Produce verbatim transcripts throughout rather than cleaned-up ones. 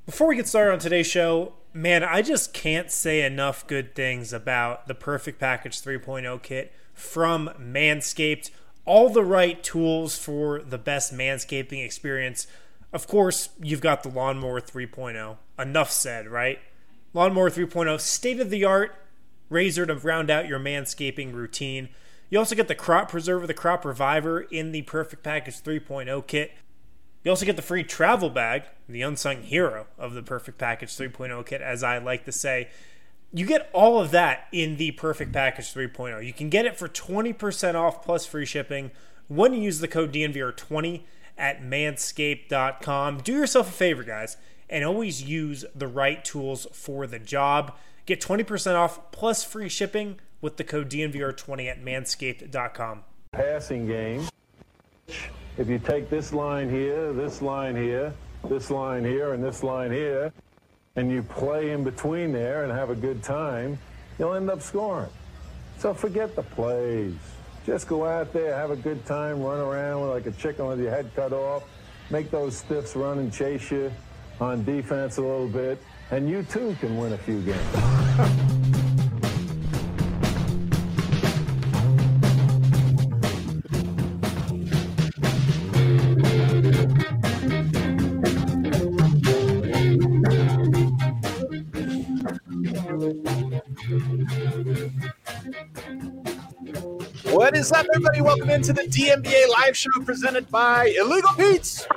Before we get started on today's show, man, I just can't say enough good things about the Perfect Package three point oh kit from Manscaped. All the right tools for the best manscaping experience. Of course, you've got the Lawnmower three point oh. Enough said, right? Lawnmower three point oh, state-of-the-art razor to round out your manscaping routine. You also get the Crop Preserver, the Crop Reviver in the Perfect Package three point oh kit. You also get the free travel bag, the unsung hero of the Perfect Package three point oh kit, as I like to say. You get all of that in the Perfect Package three point oh. You can get it for twenty percent off plus free shipping when you use the code D N V R twenty at manscaped dot com. Do yourself a favor, guys, and always use the right tools for the job. Get twenty percent off plus free shipping with the code D N V R twenty at manscaped dot com. Passing game. If you take this line here, this line here, this line here, and this line here, and you play in between there and have a good time, you'll end up scoring. So forget the plays. Just go out there, have a good time, run around like a chicken with your head cut off, make those stiffs run and chase you on defense a little bit, and you too can win a few games. What is up, everybody? Welcome into the D N B A live show presented by Illegal Pete's.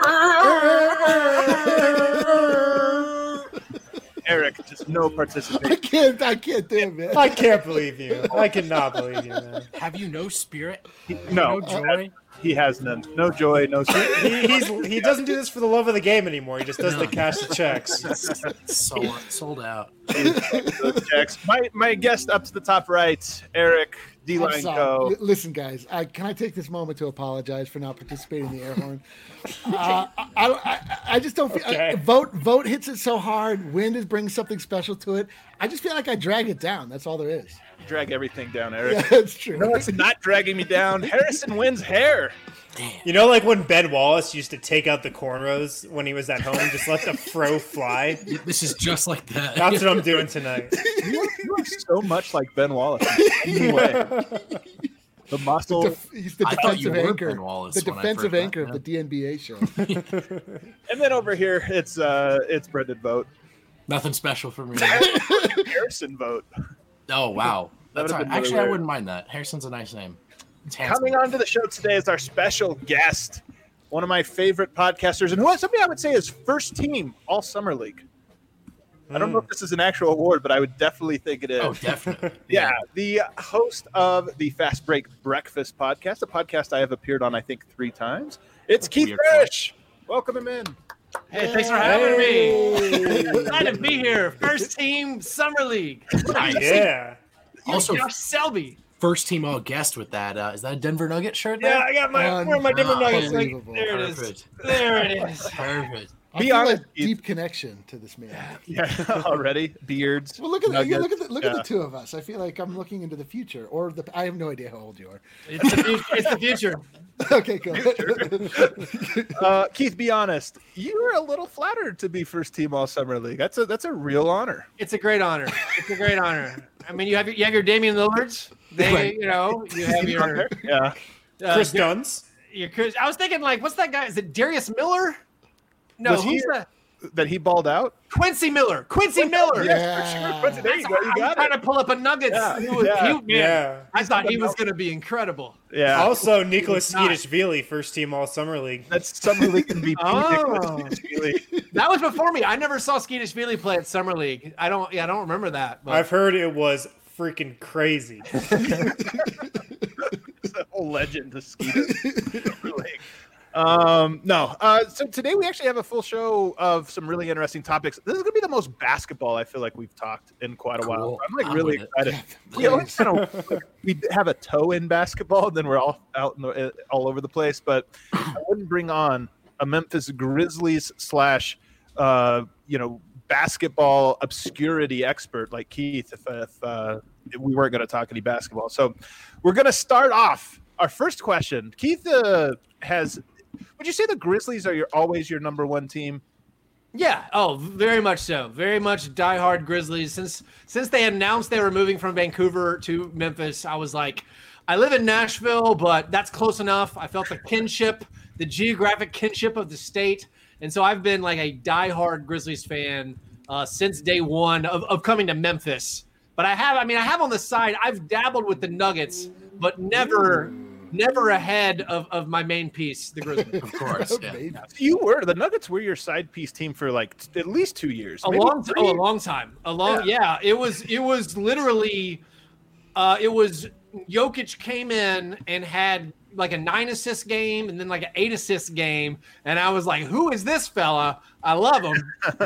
Eric, just no participation. I can't, I can't do it, man. I can't believe you. I cannot believe you, man. Have you no spirit? No, no joy? He has none. No joy, no spirit. He, he's, he doesn't do this for the love of the game anymore. He just does No. the cash the checks. Sold, sold out. Those checks. My, my guest up to the top right, Eric I'm D-Line sorry. Co. L- Listen, guys, I, can I take this moment to apologize for not participating in the air horn? uh, I, I, I, I just don't feel Okay. I, vote. Vote hits it so hard. Wind is brings something special to it. I just feel like I drag it down. That's all there is. Drag everything down, Eric. Yeah, that's true. No, it's not dragging me down. Harrison wins hair. You know, like when Ben Wallace used to take out the cornrows when he was at home, just let the fro fly? This is just like that. That's what I'm doing tonight. You look so much like Ben Wallace. Anyway, the muscle. Def- he's the I thought you defensive were anchor. Ben Wallace The when I defensive first anchor met of the D N B A show. And then over here, it's uh, it's Brendan Vogt. Nothing special for me. Harrison Vogt. Oh, wow. That would've That's all right. been Actually, really I wouldn't mind that. Harrison's a nice name. It's handsome. Coming on to the show today is our special guest, one of my favorite podcasters, and who somebody I would say is first team all summer league. I don't know if this is an actual award, but I would definitely think it is. Oh, definitely. Yeah, the host of the Fast Break Breakfast podcast, a podcast I have appeared on, I think, three times. It's Keith Weird Parrish. Welcome him in. Hey, thanks for having Hey. me. Glad to be here. First team summer league. Nice. Yeah. Also, Josh Selby. first team all guest with that. Uh, is that a Denver Nugget shirt there? Yeah, I got my where are my different nuggets. Like, Unbelievable. there it is. Perfect. There it is. Perfect. I Be feel honest, a Keith. deep connection to this man. Yeah, already beards. Well, look at the, nuggets. look at the, look Yeah. at the two of us. I feel like I'm looking into the future, or the I have no idea how old you are. It's the future. It's the future. Okay, go. Uh, Keith, be honest. You were a little flattered to be first team all summer league. That's a that's a real honor. It's a great honor. It's a great honor. I mean, you have your, you have your Damian Lillards. They, Right. you know, you have your Yeah. uh, Chris Dunn's. your Chris. I was thinking, like, what's that guy? Is it Darius Miller? No, Was he- who's that? That he balled out. Quincy Miller. Quincy Miller. Yeah. Quincy, there you go. You I'm got trying it. to pull up a Nuggets. Yeah, Who was, yeah, he- man, yeah. I thought he was going to be incredible. Yeah. Also, Nicholas not. Skeetish-Vili, first team all summer league. That's summer league M V P. Oh. Nicholas Skeetish-Vili. That was before me. I never saw Skeetish-Vili play at summer league. I don't. Yeah, I don't remember that. But I've heard it was freaking crazy. It's a whole legend to Skeetish league. Um, no. Uh, so today we actually have a full show of some really interesting topics. This is gonna be the most basketball I feel like we've talked in quite a while. Cool. I'm like I'm really with it. excited. We always kind of like, we have a toe in basketball, and then we're all out in the, all over the place. But I wouldn't bring on a Memphis Grizzlies slash uh, you know basketball obscurity expert like Keith if, if uh, we weren't going to talk any basketball. So we're going to start off our first question. Keith uh, has. Would you say the Grizzlies are your always your number one team? Yeah. Oh, very much so. Very much diehard Grizzlies. Since since they announced they were moving from Vancouver to Memphis, I was like, I live in Nashville, but that's close enough. I felt the kinship, the geographic kinship of the state. And so I've been like a diehard Grizzlies fan uh, since day one of, of coming to Memphis. But I have, I mean, I have on the side, I've dabbled with the Nuggets, but never, never ahead of, of my main piece, the Grizzlies. Of course. Yeah. You were the Nuggets were your side piece team for like at least two years. A long, t- oh, a long time. A long, yeah. yeah. It was, it was literally, uh, it was Jokic came in and had like a nine assist game and then like an eight assist game, and I was like, "Who is this fella? I love him."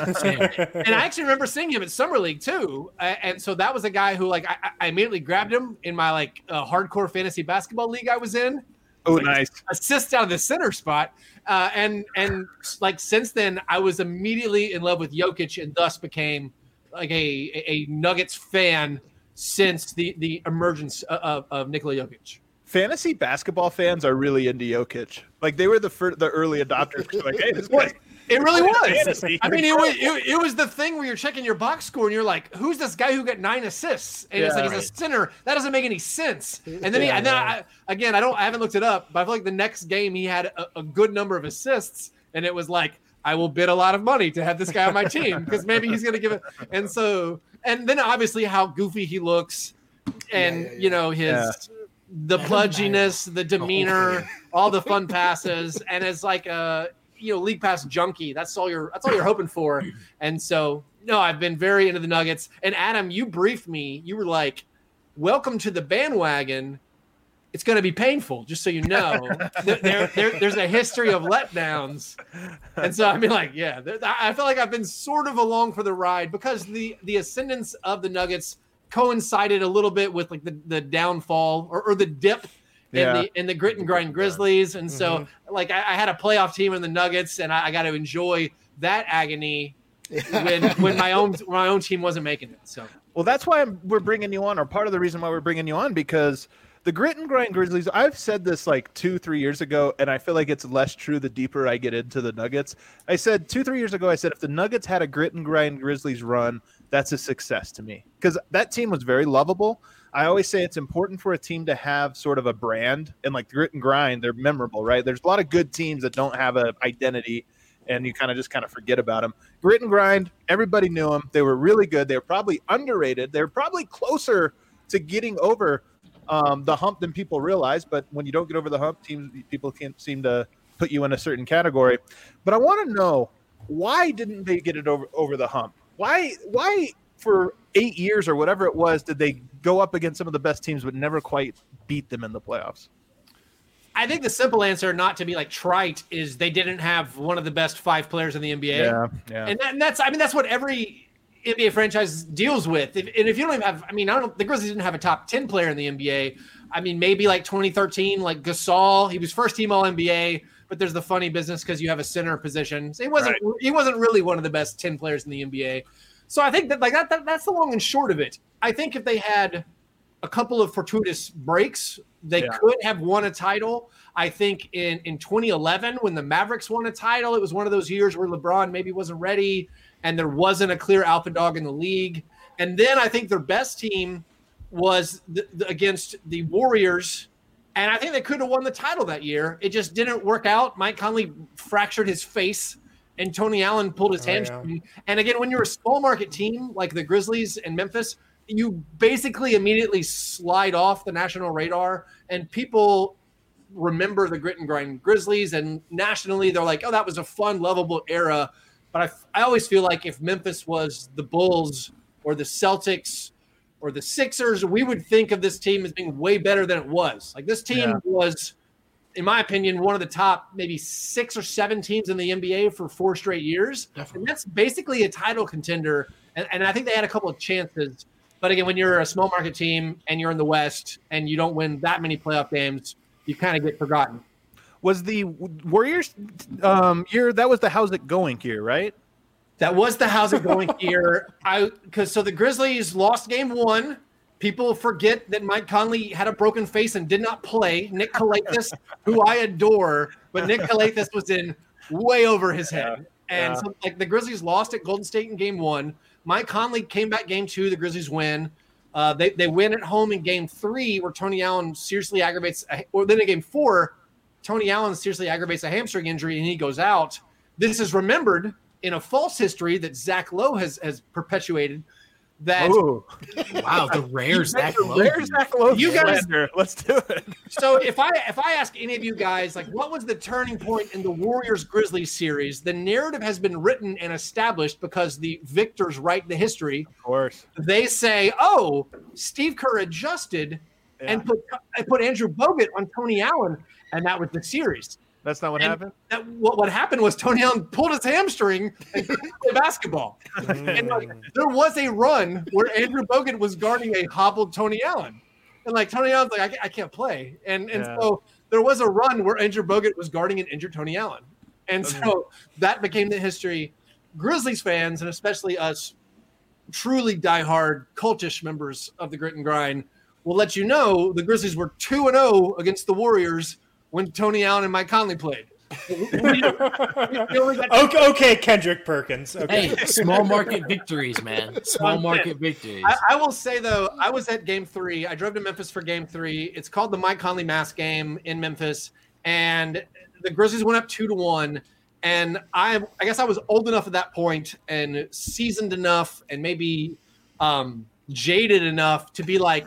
And I actually remember seeing him at Summer League too, and so that was a guy who like I, I immediately grabbed him in my like uh, hardcore fantasy basketball league I was in. Oh, like, nice assist out of the center spot, uh, and and like since then I was immediately in love with Jokic and thus became like a a, a Nuggets fan since the the emergence of, of Nikola Jokic. Fantasy basketball fans are really into Jokic. Like they were the first, the early adopters. Like, hey, this guy. It really was. I mean, it was it, it was the thing where you're checking your box score and you're like, "Who's this guy who got nine assists?" And yeah, it's like right. he's a center. That doesn't make any sense. And then he, yeah, and then I, again, I don't, I haven't looked it up, but I feel like the next game he had a, a good number of assists, and it was like, I will bid a lot of money to have this guy on my team because maybe he's going to give it. And so, and then obviously how goofy he looks, and yeah, yeah, yeah. you know his. Yeah. The pudginess, the demeanor, all the fun passes, and as like a you know league pass junkie, that's all you're that's all you're hoping for. And so, no, I've been very into the Nuggets. And Adam, you briefed me. You were like, "Welcome to the bandwagon. It's going to be painful, just so you know." there, there, there's a history of letdowns, and so I mean, like, yeah, I feel like I've been sort of along for the ride because the the ascendance of the Nuggets coincided a little bit with like the, the downfall or, or the dip in yeah. the in the grit and grind Grizzlies, and so mm-hmm. like I, I had a playoff team in the Nuggets, and I, I got to enjoy that agony when when my own my own team wasn't making it. So well, that's why I'm, we're bringing you on, or part of the reason why we're bringing you on, because the grit and grind Grizzlies. I've said this like two three years ago, and I feel like it's less true the deeper I get into the Nuggets. I said two three years ago, I said if the Nuggets had a grit and grind Grizzlies run, that's a success to me because that team was very lovable. I always say it's important for a team to have sort of a brand, and like grit and grind, they're memorable, right? There's a lot of good teams that don't have an identity, and you kind of just kind of forget about them. Grit and grind, everybody knew them. They were really good. They were probably underrated. They were probably closer to getting over um, the hump than people realize. But when you don't get over the hump, teams people can't seem to put you in a certain category. But I want to know, why didn't they get it over over the hump? Why, why for eight years or whatever it was, did they go up against some of the best teams but never quite beat them in the playoffs? I think the simple answer, not to be like trite, is they didn't have one of the best five players in the N B A. Yeah, yeah. And, that, and that's, I mean, that's what every N B A franchise deals with. If, and if you don't even have, I mean, I don't. The Grizzlies didn't have a top ten player in the N B A. I mean, maybe like twenty thirteen, like Gasol, he was first team All N B A. But there's the funny business because you have a center position. So he wasn't right. he wasn't really one of the best ten players in the N B A. So I think that like that, that that's the long and short of it. I think if they had a couple of fortuitous breaks, they yeah. could have won a title. I think in, in twenty eleven when the Mavericks won a title, it was one of those years where LeBron maybe wasn't ready and there wasn't a clear alpha dog in the league. And then I think their best team was the, the, against the Warriors. And I think they could have won the title that year. It just didn't work out. Mike Conley fractured his face, and Tony Allen pulled his oh, hamstring. Yeah. And again, when you're a small market team like the Grizzlies and Memphis, you basically immediately slide off the national radar, and people remember the grit and grind Grizzlies. And nationally, they're like, "Oh, that was a fun, lovable era." But I, I always feel like if Memphis was the Bulls or the Celtics or the Sixers, we would think of this team as being way better than it was. Like this team yeah. was, in my opinion, one of the top maybe six or seven teams in the N B A for four straight years. Definitely. And that's basically a title contender. And, and I think they had a couple of chances. But again, when you're a small market team and you're in the West and you don't win that many playoff games, you kind of get forgotten. Was the Warriors um, year, that was the how's it going here, right? That was the how's it going here. I because so the Grizzlies lost game one. People forget that Mike Conley had a broken face and did not play. Nick Kalathis, who I adore, but Nick Kalathis was in way over his head. And Yeah. so, like the Grizzlies lost at Golden State in game one. Mike Conley came back game two. The Grizzlies win. Uh, they, they win at home in game three where Tony Allen seriously aggravates, a, or then in game four, Tony Allen seriously aggravates a hamstring injury and he goes out. This is remembered in a false history that Zach Lowe has, has perpetuated. That Ooh. Wow, the rare Zach Lowe. Rare Zach Lowe You guys- slander. Let's do it. So if I if I ask any of you guys, like, what was the turning point in the Warriors Grizzlies series? The narrative has been written and established because the victors write the history. Of course. They say, "Oh, Steve Kerr adjusted and Yeah. put and put Andrew Bogut on Tony Allen, and that was the series." That's not what And happened? That what, what happened was Tony Allen pulled his hamstring and couldn't play basketball. And like, there was a run where Andrew Bogut was guarding a hobbled Tony Allen, and like Tony Allen's like, I, ca- I can't play, and and Yeah. so there was a run where Andrew Bogut was guarding an injured Tony Allen, and so that became the history. Grizzlies fans, and especially us, truly diehard cultish members of the Grit and Grind, will let you know the Grizzlies were two and zero against the Warriors when Tony Allen and Mike Conley played. We- we- we only got- Okay, okay, Kendrick Perkins. Okay. Hey, small market victories, man. Small market victories. I, I will say though, I was at Game Three. I drove to Memphis for Game Three. It's called the Mike Conley Mask Game in Memphis, and the Grizzlies went up two to one. And I, I guess I was old enough at that point and seasoned enough, and maybe um, jaded enough to be like,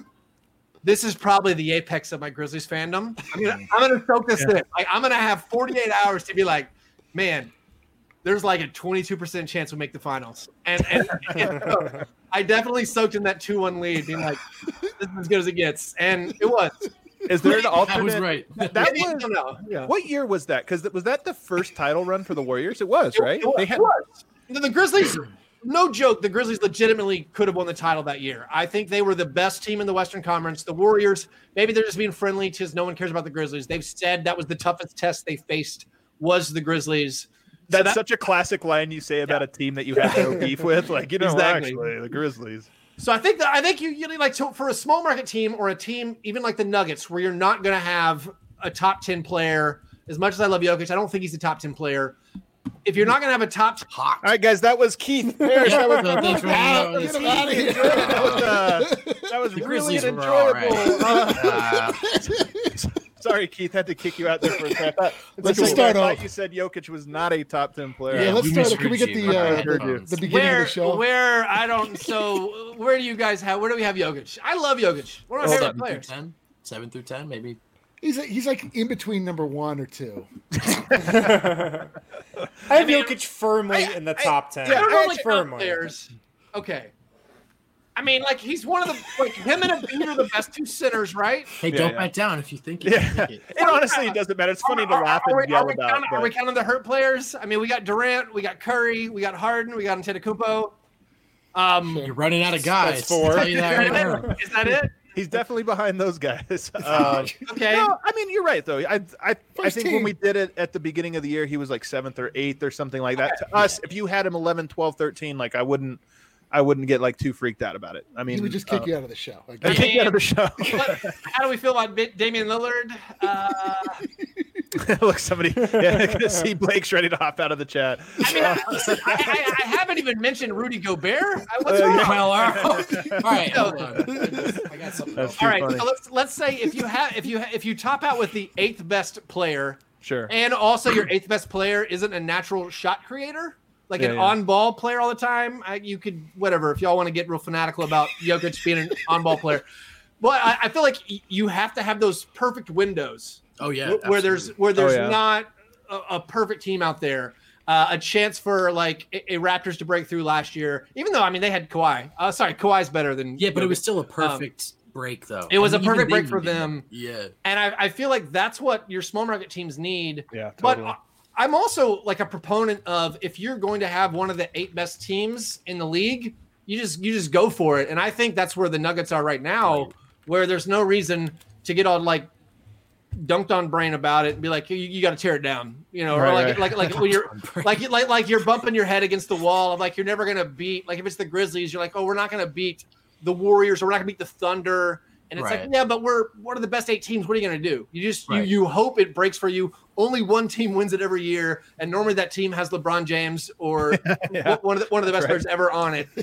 this is probably the apex of my Grizzlies fandom. I'm gonna, I'm gonna soak this in. Like, I'm gonna have forty-eight hours to be like, man, there's like a twenty-two percent chance we'll make the finals. And, and, and so I definitely soaked in that two one lead, being like, this is as good as it gets. And it was. Is there an alternate? that was right. That Maybe, I was, don't know. Yeah. what year was that? Because was that the first title run for the Warriors? It was, right? It was. They had, It was. The, the Grizzlies, no joke, the Grizzlies legitimately could have won the title that year. I think they were the best team in the Western Conference. The Warriors, maybe they're just being friendly because no one cares about the Grizzlies. They've said that was the toughest test they faced was the Grizzlies. So that's that- such a classic line you say about a team that you have no beef with. Like, you know, Exactly. actually, the Grizzlies. So I think that I think you, you know, like to, for a small market team or a team even like the Nuggets, where you're not going to have a top ten player. As much as I love Jokic, I don't think he's a top ten player. If you're not going to have a top, Hot. All right, guys, that was Keith Parrish. That was, So thanks for Out, having get us. him out of here. that was, uh, that was The really Grizzlies an were all right. enjoyable. uh, Uh, Sorry, Keith, had to kick you out there for a second. I thought- Let's it's just okay, I start thought off. You said Jokic was not a top ten player. Yeah, Yeah, let's we start. Can we get misread the you. uh, I heard you. the beginning where of the show? where I don't. So where do you guys have? Where do we have Jokic? I love Jokic. One of my favorite seven through players. ten. Seven through ten, maybe. He's he's like in between number one or two. I have Jokic firmly in the top ten. I don't know, like top firmly. players. Okay. I mean, like he's one of the like him and Embiid are the best two centers, right? Hey, Yeah, don't yeah. back down if you think you Yeah. can make it. And honestly, it doesn't matter. It's funny to Are- laugh are, and we, are, yell we about. counting, are we but- counting the hurt players? I mean, we got Durant, we got Curry, we got Harden, we got Antetokounmpo. Um, You're running out of guys. That's four. I'll tell you that right now. is that it? He's definitely behind those guys. Um, Okay. no, I mean you're right though. I I, I First think team. when we did it at the beginning of the year, he was like seventh or eighth or something like that. To us, if you had him eleven, twelve, thirteen, like I wouldn't, I wouldn't get like too freaked out about it. I mean, He would just kick uh, you out of the show. Like, I'd kick you out of the show. What- how do we feel about Bi- Damian Lillard? Uh, Look, somebody, yeah, see Blake's ready to hop out of the chat. I mean, I, I, I haven't even mentioned Rudy Gobert. I- What's Uh, wrong? yeah. Well, all right. All right. hold on. I got something. That's else. too All right, funny. so let's let's say if you have if you ha- if you top out with the eighth best player, Sure. and also your eighth best player isn't a natural shot creator, like Yeah, an yeah. on-ball player all the time, I, you could whatever. If y'all want to get real fanatical about Jokic being an on-ball player, but I, I feel like y- you have to have those perfect windows Oh yeah. wh- where there's absolutely. where there's yeah. not a, a perfect team out there. Uh, a chance for like a, a Raptors to break through last year, even though I mean they had Kawhi. Uh, sorry, Kawhi's better than Yeah, but it Jokic. was still a perfect break though. Um, it was And a even perfect they break for needed it. them. Yeah. And I, I feel like that's what your small market teams need. Yeah, But totally. I- I'm also like a proponent of if you're going to have one of the eight best teams in the league, you just you just go for it. And I think that's where the Nuggets are right now, where there's no reason to get all like dunked on brain about it and be like, you, you got to tear it down, you know, or Right, like, right. like like when you're like you- like like you're bumping your head against the wall of like you're never gonna beat. Like if it's the Grizzlies, you're like, oh, we're not gonna beat the Warriors, or we're not gonna beat the Thunder. And it's Right. like, yeah, but we're one of the best eight teams. What are you going to do? You just Right. you you hope it breaks for you, only one team wins it every year, and normally that team has LeBron James or yeah, one of the, one of the best right. players ever on it.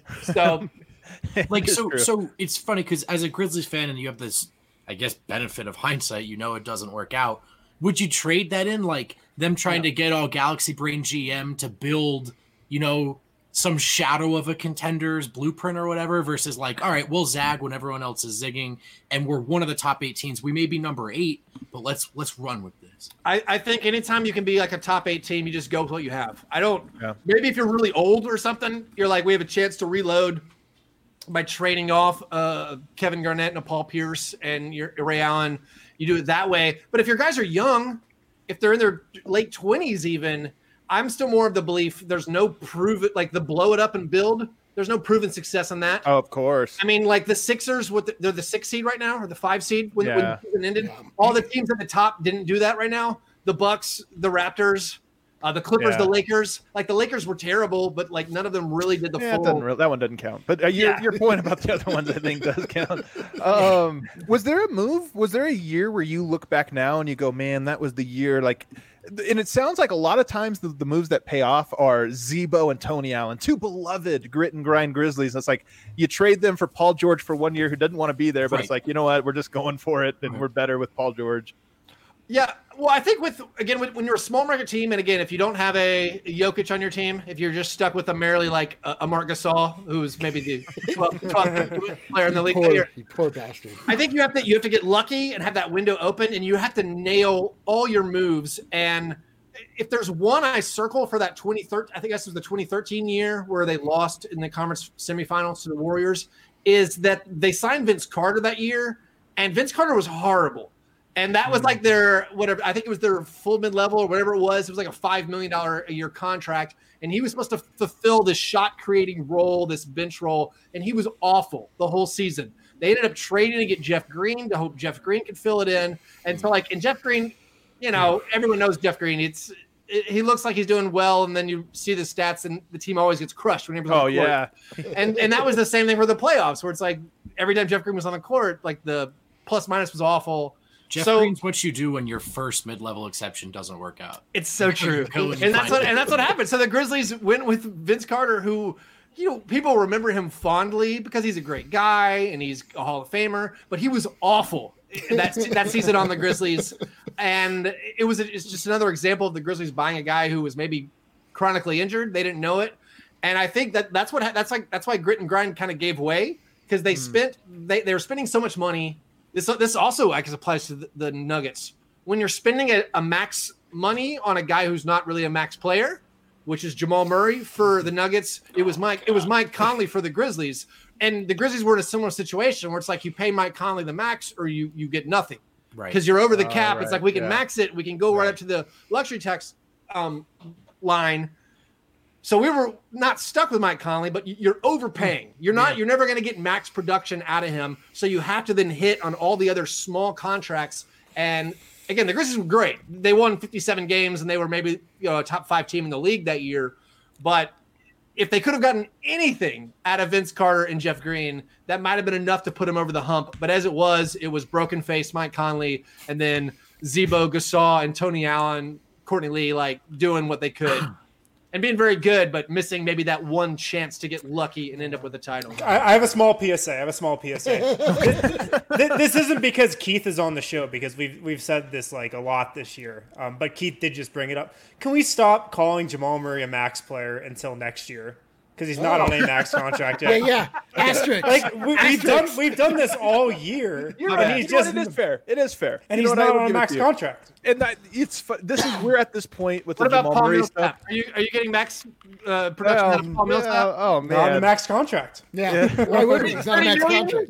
So, like, so true. so it's funny because as a Grizzlies fan, and you have this, I guess, benefit of hindsight, you know, it doesn't work out. Would you trade that in, like them trying yeah. to get all Galaxy Brain G M to build, you know, some shadow of a contender's blueprint or whatever, versus like, all right, we'll zag when everyone else is zigging, and we're one of the top eight teams. We may be number eight, but let's let's run with this. I, I think anytime you can be like a top eight team, you just go with what you have. I don't. Yeah. Maybe if you're really old or something, you're like, we have a chance to reload by trading off uh, Kevin Garnett and a Paul Pierce and your Ray Allen. You do it that way. But if your guys are young, if they're in their late twenties, even. I'm still more of the belief there's no prove it, like the blow it up and build. There's no proven success on that. Oh, of course. I mean, like the Sixers, what the, they're the six seed right now or the five seed when, yeah. when the season ended. Yeah. All the teams at the top didn't do that right now. The Bucks, the Raptors, uh, the Clippers, yeah. the Lakers. Like the Lakers were terrible, but like none of them really did the yeah, full. Re- that one doesn't count. But uh, your, yeah. your point about the other ones, I think, does count. Um, was there a move? Was there a year where you look back now and you go, man, that was the year like – and it sounds like a lot of times the, the moves that pay off are Zebo and Tony Allen, two beloved grit and grind Grizzlies. And it's like you trade them for Paul George for one year who doesn't want to be there, but right. it's like, you know what, we're just going for it, and right. we're better with Paul George. Yeah, well, I think with again when, when you're a small market team, and again if you don't have a, a Jokic on your team, if you're just stuck with a merely like a, a Marc Gasol, who's maybe the twelfth player in the league, poor, year, you poor bastard. I think you have to you have to get lucky and have that window open, and you have to nail all your moves. And if there's one I circle for that twenty thirteen, I think this was the twenty thirteen year where they lost in the conference semifinals to the Warriors, is that they signed Vince Carter that year, and Vince Carter was horrible. And that was like their, whatever, I think it was their full mid-level or whatever it was. It was like a five million dollars a year contract. And he was supposed to fulfill this shot-creating role, this bench role. And he was awful the whole season. They ended up trading to get Jeff Green to hope Jeff Green could fill it in. And so, like, and Jeff Green, you know, everyone knows Jeff Green. It's it, he looks like he's doing well. And then you see the stats, and the team always gets crushed whenever he's on the court. Oh, yeah. and, and that was the same thing for the playoffs, where it's like every time Jeff Green was on the court, like the plus-minus was awful. Jeff so, Green's what you do when your first mid-level exception doesn't work out. It's so true, and, and that's what and that's what happened. So the Grizzlies went with Vince Carter, who, you know, people remember him fondly because he's a great guy and he's a Hall of Famer, but he was awful that that season on the Grizzlies, and it was it's just another example of the Grizzlies buying a guy who was maybe chronically injured. They didn't know it, and I think that that's what that's like that's why grit and grind kind of gave way, because they mm. spent they they were spending so much money. This this also, I guess, applies to the, the Nuggets. When you're spending a, a max money on a guy who's not really a max player, which is Jamal Murray for the Nuggets, it was Mike it was Mike Conley for the Grizzlies, and the Grizzlies were in a similar situation where it's like you pay Mike Conley the max or you you get nothing, right? Because you're over the cap. Uh, right. It's like we can yeah. max it, we can go right, right up to the luxury tax um, line. So we were not stuck with Mike Conley, but you're overpaying. You're not. Yeah. You're never going to get max production out of him. So you have to then hit on all the other small contracts. And again, the Grizzlies were great. They won fifty-seven games, and they were maybe you know a top five team in the league that year. But if they could have gotten anything out of Vince Carter and Jeff Green, that might have been enough to put him over the hump. But as it was, it was broken face Mike Conley, and then Zebo, Gasol, and Tony Allen, Courtney Lee, like doing what they could. And being very good, but missing maybe that one chance to get lucky and end up with a title. I, I have a small P S A. I have a small P S A. this, this isn't because Keith is on the show, because we've we've said this like a lot this year. Um, but Keith did just bring it up. Can we stop calling Jamal Murray a max player until next year? Because he's not oh. on a max contract yet. Yeah, yeah. Asterisk. Like we, we've done, we've done this all year. You're right. He's just, it is fair. It is fair. And you he's not on a max contract. And that, it's this is we're at this point with what the about Jamal Paul Murray Millsap? stuff. Are you are you getting max uh, production um, out of Paul Millsap? Yeah, oh man, not on a max contract. Yeah. yeah. Why would he? He's not a max contract.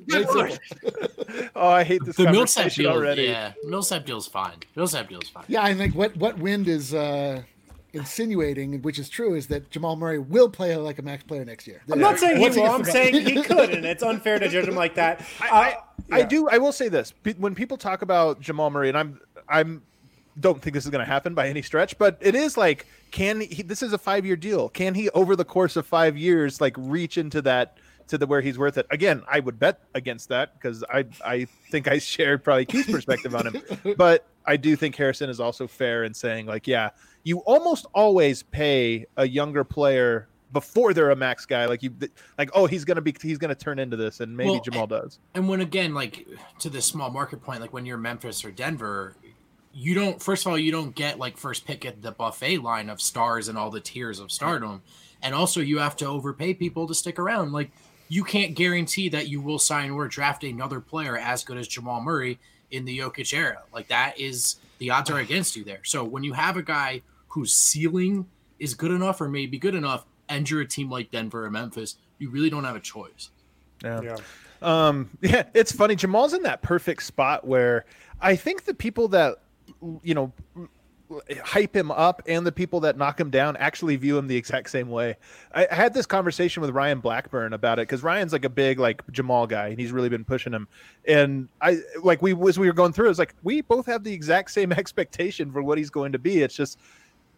Oh, I hate this the conversation Millsap deal, already. Yeah, Millsap deal's fine. Millsap deal's fine. Yeah, and like what what Wind is uh, insinuating, which is true, is that Jamal Murray will play like a max player next year. I'm not saying he will. I'm saying he could, and it's unfair to judge him like that. I, I, uh, yeah. I do. I will say this: when people talk about Jamal Murray, and I'm, I'm, don't think this is going to happen by any stretch, but it is like, can he? This is a five-year deal. Can he, over the course of five years, like reach into that? To the where he's worth it. Again, I would bet against that because I I think I shared probably Keith's perspective on him. But I do think Harrison is also fair in saying, like, yeah, you almost always pay a younger player before they're a max guy. Like you, like, oh, he's gonna be, he's gonna turn into this, and maybe well, Jamal does. And when again, like to the small market point, like when you're Memphis or Denver, you don't. First of all, you don't get like first pick at the buffet line of stars and all the tiers of stardom, and also you have to overpay people to stick around. Like you can't guarantee that you will sign or draft another player as good as Jamal Murray in the Jokic era. Like that is the odds are against you there. So when you have a guy whose ceiling is good enough or maybe good enough, and you're a team like Denver or Memphis, you really don't have a choice. Yeah. yeah. Um, yeah, it's funny. Jamal's in that perfect spot where I think the people that, you know, hype him up and the people that knock him down actually view him the exact same way. I, I had this conversation with Ryan Blackburn about it because Ryan's like a big like Jamal guy and he's really been pushing him. And I like we as we were going through, it was like we both have the exact same expectation for what he's going to be. It's just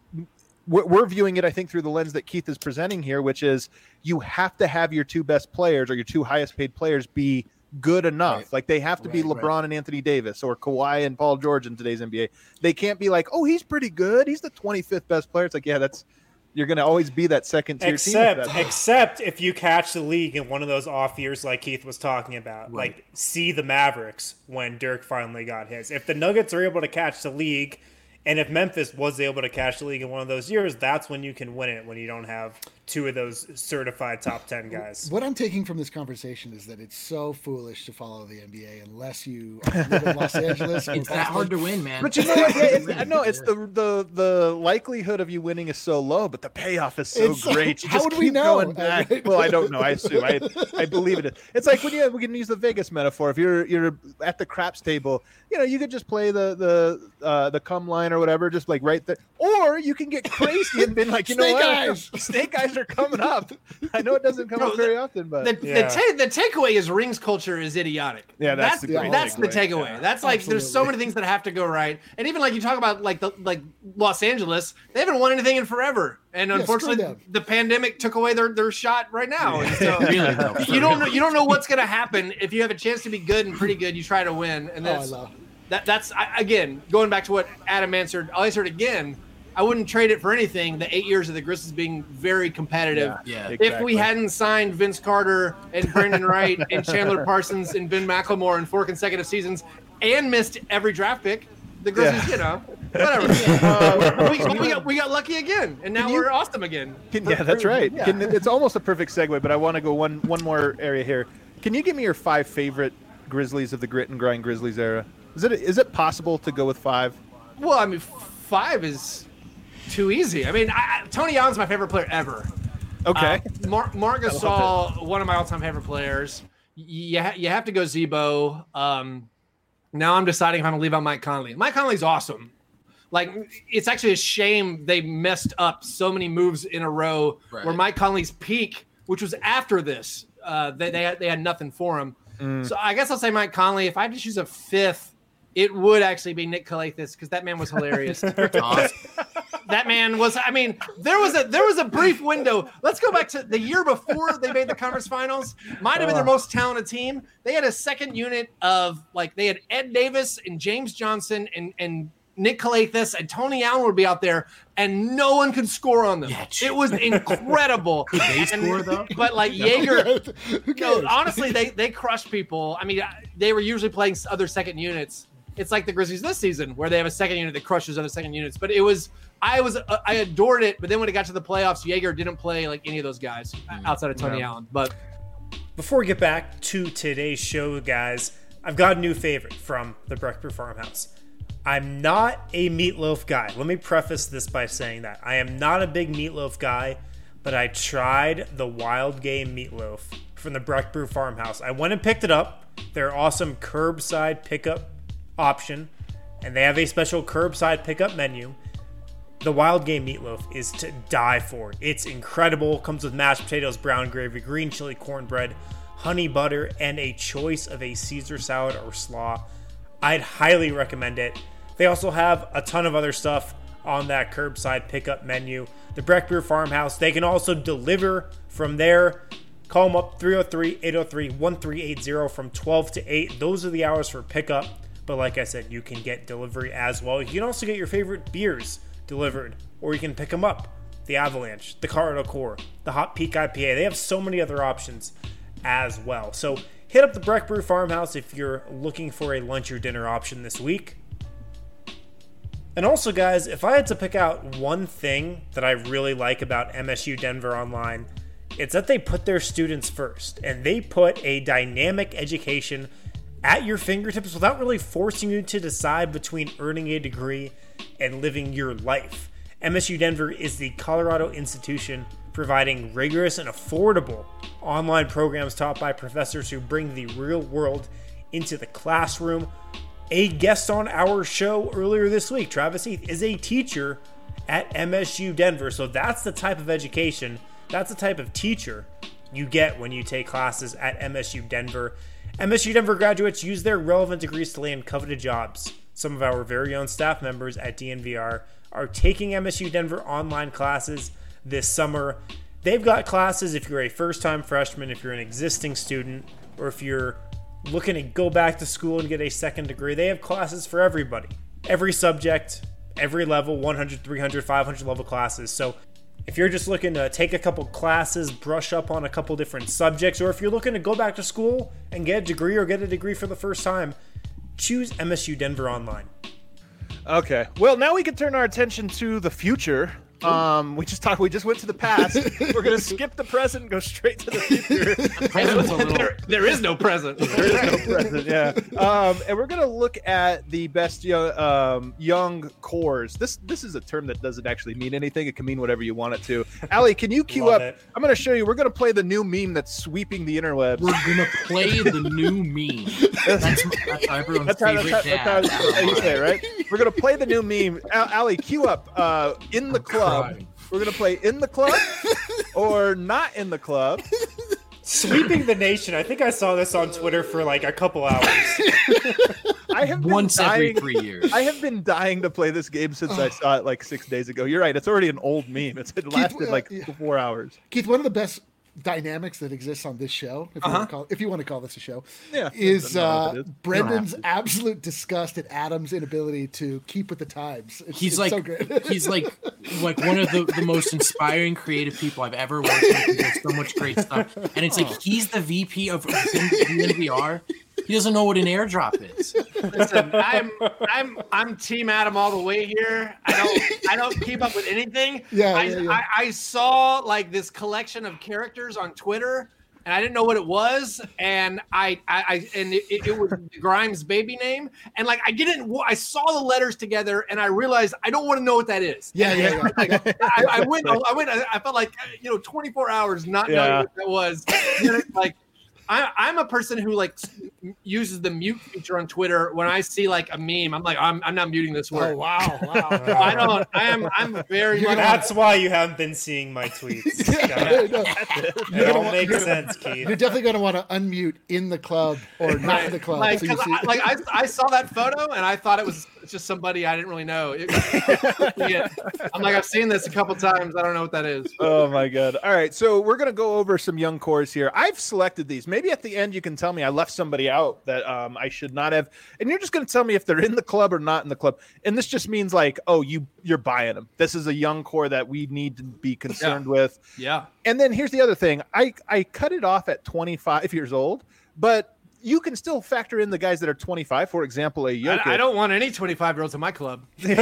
we're viewing it, I think, through the lens that Keith is presenting here, which is you have to have your two best players or your two highest paid players be good enough. Right. Like they have to right, be LeBron right. and Anthony Davis or Kawhi and Paul George in today's N B A. They can't be like, oh, he's pretty good. He's the twenty-fifth best player. It's like, yeah, that's you're going to always be that second tier except, team. Except if you catch the league in one of those off years like Keith was talking about, right. like see the Mavericks when Dirk finally got his. If the Nuggets are able to catch the league, and if Memphis was able to catch the league in one of those years, that's when you can win it, when you don't have two of those certified top ten guys. What I'm taking from this conversation is that it's so foolish to follow the N B A unless you live in Los Angeles. It's that hard to win, man. But you know what? Yeah, it's, no, it's the, the the likelihood of you winning is so low, but the payoff is so it's great. You how just would keep we know? Going back. Well, I don't know. I assume. I I believe it. It's like when you we can use the Vegas metaphor. If you're you're at the craps table, you know, you could just play the the uh, the cum line or whatever, just like right there. Or you can get crazy and been like, you know Snake what? Eyes. Snake eyes are coming up. I know it doesn't come no, up very the, often, but the yeah. the, ta- the takeaway is rings culture is idiotic. Yeah, that's that's the, the, that's the takeaway. Yeah. That's like Absolutely. There's so many things that have to go right, and even like you talk about like the like Los Angeles, they haven't won anything in forever, and yeah, unfortunately the pandemic took away their, their shot right now. And so really, though, you don't know, you don't know what's going to happen if you have a chance to be good and pretty good. You try to win, and that's oh, that that's I, again going back to what Adam answered. I'll answer it again. I wouldn't trade it for anything. The eight years of the Grizzlies being very competitive. Yeah, yeah, if exactly. we hadn't signed Vince Carter and Brandon Wright and Chandler Parsons and Ben McLemore in four consecutive seasons and missed every draft pick, the Grizzlies, yeah. you know, whatever. uh, we, we, got, we got lucky again, and now Can we're you, awesome again. Can, yeah, that's right. Yeah. Can, it's almost a perfect segue, but I want to go one one more area here. Can you give me your five favorite Grizzlies of the grit and grind Grizzlies era? Is it is it possible to go with five? Well, I mean, five is too easy. I mean, I, Tony Allen's my favorite player ever. Okay. Uh, Marc Marc Gasol, one of my all-time favorite players. You, ha- you have to go Zebo. Um, now I'm deciding if I'm going to leave out Mike Conley. Mike Conley's awesome. Like, it's actually a shame they messed up so many moves in a row right. where Mike Conley's peak, which was after this, uh, they, they, had, they had nothing for him. Mm. So I guess I'll say Mike Conley. If I had to choose a fifth, it would actually be Nick Kalathis because that man was hilarious. Awesome. That man was, I mean, there was a there was a brief window. Let's go back to the year before they made the conference finals. Might have been their most talented team. They had a second unit of, like, they had Ed Davis and James Johnson and, and Nick Kalathis and Tony Allen would be out there, and no one could score on them. Yeah, it was incredible. Could they score, though? But, like, Jaeger, no, honestly, they, they crushed people. I mean, they were usually playing other second units. It's like the Grizzlies this season where they have a second unit that crushes other second units. But it was – I was uh, I adored it, but then when it got to the playoffs, Jaeger didn't play like any of those guys outside of Tony yeah. Allen. But before we get back to today's show, guys, I've got a new favorite from the Breck Brew Farmhouse. I'm not a meatloaf guy. Let me preface this by saying that. I am not a big meatloaf guy, but I tried the Wild Game meatloaf from the Breck Brew Farmhouse. I went and picked it up. Their awesome curbside pickup option, and they have a special curbside pickup menu. The Wild Game meatloaf is to die for. It's incredible. Comes with mashed potatoes, brown gravy, green chili cornbread, honey butter, and a choice of a Caesar salad or slaw. I'd highly recommend it. They also have a ton of other stuff on that curbside pickup menu. The Breck Brew Farmhouse, they can also deliver from there. Call them up, three oh three, eight oh three, one three eight zero from twelve to eight. Those are the hours for pickup. But like I said, you can get delivery as well. You can also get your favorite beers delivered, or you can pick them up. The Avalanche, the Colorado Core, the Hot Peak I P A. They have so many other options as well. So hit up the Breck Brew Farmhouse if you're looking for a lunch or dinner option this week. And also, guys, if I had to pick out one thing that I really like about M S U Denver Online, it's that they put their students first, and they put a dynamic education at your fingertips without really forcing you to decide between earning a degree and living your life. M S U Denver is the Colorado institution providing rigorous and affordable online programs taught by professors who bring the real world into the classroom. A guest on our show earlier this week, Travis Heath, is a teacher at M S U Denver. So that's the type of education, that's the type of teacher you get when you take classes at M S U Denver. M S U Denver graduates use their relevant degrees to land coveted jobs. Some of our very own staff members at D N V R are taking M S U Denver online classes this summer. They've got classes if you're a first-time freshman, if you're an existing student, or if you're looking to go back to school and get a second degree. They have classes for everybody. Every subject, every level, one hundred, three hundred, five hundred level classes. So if you're just looking to take a couple classes, brush up on a couple different subjects, or if you're looking to go back to school and get a degree or get a degree for the first time, choose M S U Denver Online. Okay. Well, now we can turn our attention to the future. Um, we just talked. We just went to the past. We're gonna skip the present and go straight to the future. there, there is no present. There is no present. Yeah. Um, and we're gonna look at the best young, um, young cores. This this is a term that doesn't actually mean anything. It can mean whatever you want it to. Allie, can you cue Love up? it. I'm gonna show you. We're gonna play the new meme that's sweeping the interwebs. We're gonna play the new meme. That's, that's everyone's That's how, favorite that's, how, dad. that's, how, that's how you say it, right? We're gonna play the new meme. Al- Allie, cue up. Uh, in the club. crying. We're gonna play in the club or not in the club. Sweeping the nation. I think I saw this on Twitter for like a couple hours. I have been Once dying, every three years. I have been dying to play this game since I saw it like six days ago. You're right. It's already an old meme. It's, it lasted uh, like yeah. four hours. Keith, one of the best dynamics that exists on this show, if, Uh-huh. you, want to call, if you want to call this a show, Yeah, is I don't know if uh, it is. Brendan's You absolute disgust at Adam's inability to keep with the times. It's, He's it's like so great. he's like like one of the, the most inspiring creative people I've ever worked with. He does so much great stuff, and it's like he's the V P of D N V R. He doesn't know what an airdrop is. Listen, I'm I'm I'm Team Adam all the way here. I don't I don't keep up with anything. Yeah, I, yeah, yeah. I, I saw like this collection of characters on Twitter, and I didn't know what it was, and I I, I and it, it was Grimes' baby name, and like I didn't I saw the letters together, and I realized I don't want to know what that is. Yeah, yeah, yeah. Like, I, I went I went I felt like you know twenty-four hours not knowing Yeah. what that was. And it's like. I, I'm a person who like uses the mute feature on Twitter. When I see like a meme, I'm like, I'm, I'm not muting this Oh word. wow, wow. I don't. I am. I'm very much. That's why you haven't been seeing my tweets. guys. No, It all makes sense, Keith. you're definitely going to want to unmute in the club or not in the club. Like, so you 'cause see- I, like I, I saw that photo and I thought it was just somebody I didn't really know. It- yeah. I'm like, I've seen this a couple times. I don't know what that is. Oh my god. All right, so we're gonna go over some young cores here. I've selected these. Maybe at the end you can tell me I left somebody out that um, I should not have, and you're just gonna tell me if they're in the club or not in the club. And this just means like, oh, you you're buying them. This is a young core that we need to be concerned with. Yeah. And then here's the other thing. I I cut it off at twenty-five years old, but you can still factor in the guys that are twenty-five. For example, a Jokic. I, I don't want any twenty-five year olds in my club. Get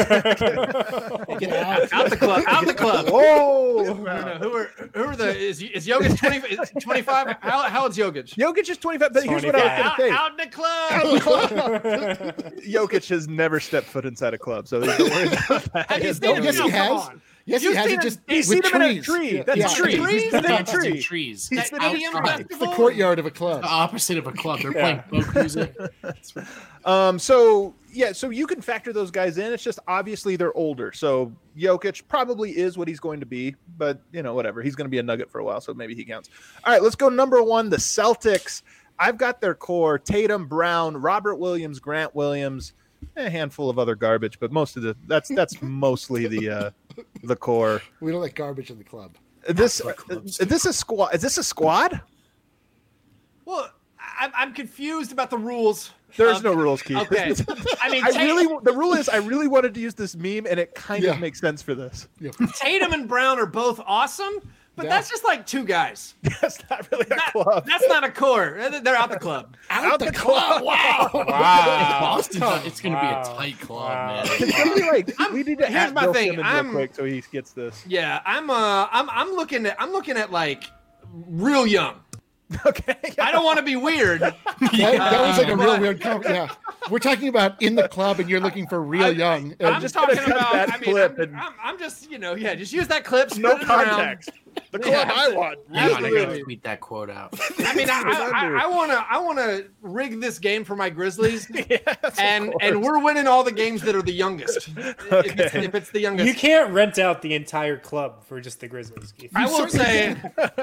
out. Out the club. Out the club. Whoa. No, no, who are who are the is is Jokic twenty, is twenty-five? How how old's Jokic? Jokic is twenty-five. But here's what I was Out, going to say. out in the club. Jokic has never stepped foot inside a club, so don't worry about that. Have you Oh, seen yes, him? he No, has. come on. Yes, You've he has. seen It him- just you've seen with him in a trees. tree. Yeah. That's Yeah. tree. Trees? He's been in a Dances in tree. trees. He's That been in a idiom tree. festival? It's the courtyard of a club. The opposite of a club. They're playing folk music. Um, so yeah, so you can factor those guys in. It's just obviously they're older. So Jokic probably is what he's going to be, but you know, whatever. He's going to be a Nugget for a while, so maybe he counts. All right, let's go number one, the Celtics. I've got their core: Tatum, Brown, Robert Williams, Grant Williams, a handful of other garbage, but most of the that's that's mostly the uh, the core. We don't like garbage in the club. This is this a squad? Is this a squad? Well, I'm I'm confused about the rules. There's Um, no rules, Keith. Okay. I mean, I Tat- really the rule is I really wanted to use this meme, and it kind Yeah. of makes sense for this. Tatum and Brown are both awesome, but Yeah. that's just like two guys. That's not really a That- club. That's not a core. They're out the club. Out the club. Wow. Wow. Boston's a- it's going to Wow. be a tight club, Wow. man. Maybe, like, we need to here's add my Bill thing, Simmons I'm- real quick so he gets this. Yeah, I'm uh I'm I'm looking at I'm looking at like real young. Okay. I don't want to be weird. That, that was like a real But- weird comment. Yeah. We're talking about in the club and you're looking for real I- young. I'm And just gonna talking cut about. that I mean, clip I'm, and- I'm, I'm just you know yeah, just use that clip. No spread it around. context. The club Yeah. I want. Hang on, I Absolutely. got to tweet that quote out. I mean, I, I, I want to I want to rig this game for my Grizzlies, and and we're winning all the games that are the youngest. If, it's, if it's the youngest, You can't rent out the entire club for just the Grizzlies, Keith. I will say.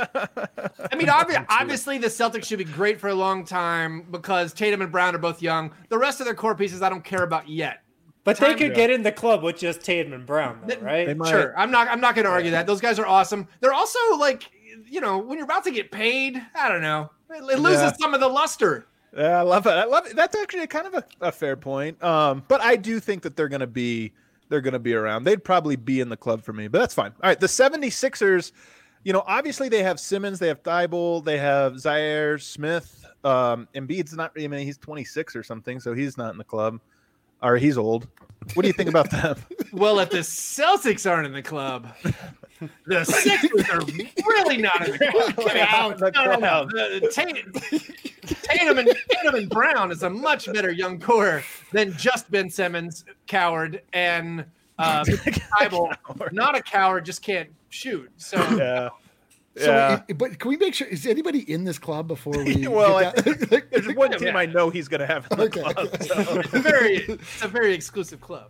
I mean, obvi- obviously, the Celtics should be great for a long time because Tatum and Brown are both young. The rest of their core pieces, I don't care about yet. But they Time- could get in the club with just Tatum and Brown, though, right? They might- Sure, I'm not. I'm not going to argue that. Those guys are awesome. They're also like, you know, when you're about to get paid, I don't know, it, it loses Yeah. some of the luster. Yeah, I love it. I love it. That's actually kind of a, a fair point. Um, but I do think that they're going to be they're going to be around. They'd probably be in the club for me, but that's fine. All right, the seventy-sixers, you know, obviously they have Simmons, they have Thibault, they have Zaire Smith. Um, Embiid's not. I mean, he's twenty-six or something, so he's not in the club, or he's old. What do you think about them? Well, if the Celtics aren't in the club, the Sixers are really not in the club. Get out. No, no, no. The, Tatum, Tatum, and, Tatum and Brown is a much better young core than just Ben Simmons, coward, and uh, Thibault, not a coward, just can't shoot. So Yeah. so, Yeah. it- but can we make sure, is anybody in this club before we? Well, I get think that? there's one team Yeah. I know he's going to have in the Okay. club. So. it's a very, it's a very exclusive club.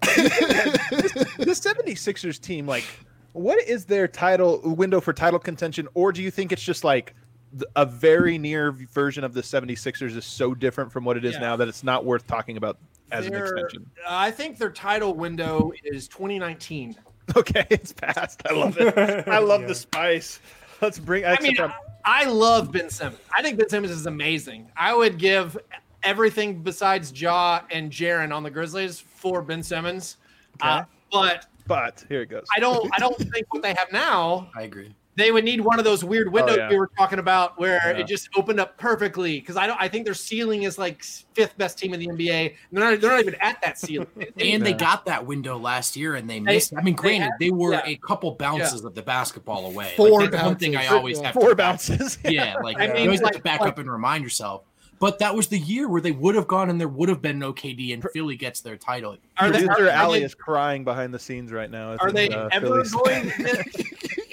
The seventy-sixers team, like, what is their title window for title contention? Or do you think it's just like th- a very near version of the seventy-sixers is so different from what it is Yeah. now that it's not worth talking about as an Their- extension? I think their title window is twenty nineteen. Okay, it's past. I love it. I love Yeah. the spice. Let's bring. I mean, except I love Ben Simmons. I think Ben Simmons is amazing. I would give everything besides Ja and Jaren on the Grizzlies for Ben Simmons. Uh, Okay. but but here it goes. I don't. I don't think what they have now. I agree. They would need one of those weird windows Oh, yeah. we were talking about, where Yeah. it just opened up perfectly. Because I don't. I think their ceiling is like fifth best team in the N B A. And they're not. They're not even at that ceiling. And they got that window last year, and they missed. I mean, granted, had- they were yeah. a couple bounces of the basketball away. Four like, that's one thing I bounces. always Yeah. have. Four to bounces. Yeah, like I you mean, always have like- to back like- up and remind yourself. But that was the year where they would have gone, and there would have been no K D, and Philly gets their title. Are they? Producer Are, Allie are is crying behind the scenes right now. Are they Uh, ever Philly's- going to get,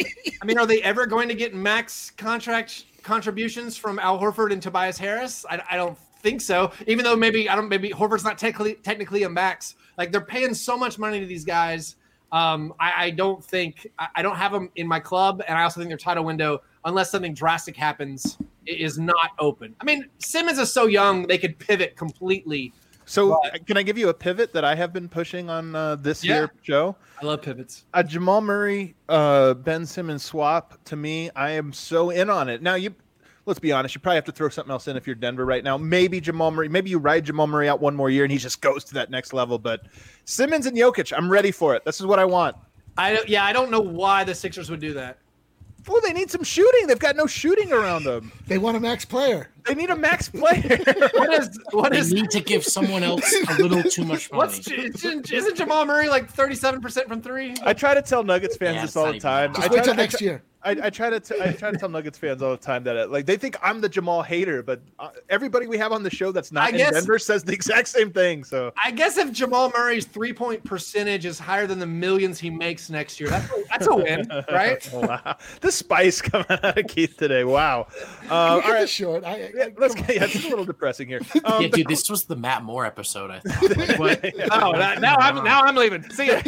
I mean, are they ever going to get max contract contributions from Al Horford and Tobias Harris? I, I don't think so. Even though maybe I don't maybe Horford's not technically technically a max. Like they're paying so much money to these guys. Um, I, I don't think I, I don't have them in my club, and I also think their title window, unless something drastic happens, i- is not open. I mean, Simmons is so young; they could pivot completely. So, But- can I give you a pivot that I have been pushing on uh, this Yeah. year show? I love pivots. A Jamal Murray, uh, Ben Simmons swap, to me, I am so in on it. Now, you let's be honest, you probably have to throw something else in if you're Denver right now. Maybe Jamal Murray, maybe you ride Jamal Murray out one more year and he just goes to that next level. But Simmons and Jokic, I'm ready for it. This is what I want. I don't, yeah, I don't know why the Sixers would do that. Well, they need some shooting. They've got no shooting around them. They want a max player. They need a max player. What is what They is need to give someone else a little too much money. What's isn't, isn't Jamal Murray like thirty-seven percent from three? I try to tell Nuggets fans Yeah, this it's all not the even time. that. I Just try wait till to- I next try- year. I, I try to t- I try to tell Nuggets fans all the time that like they think I'm the Jamal hater, but uh, everybody we have on the show that's not I in guess- Denver says the exact same thing. So I guess if Jamal Murray's three-point percentage is higher than the millions he makes next year, that's a, that's a win, right? wow, the spice coming out of Keith today. Wow. Uh, all Look at right, this short. I, I, yeah, let's get. Yeah, it's a little depressing here. Um, Yeah, dude, this was the Matt Moore episode. I thought. Like, what? Oh, that, now I'm now I'm leaving. See ya.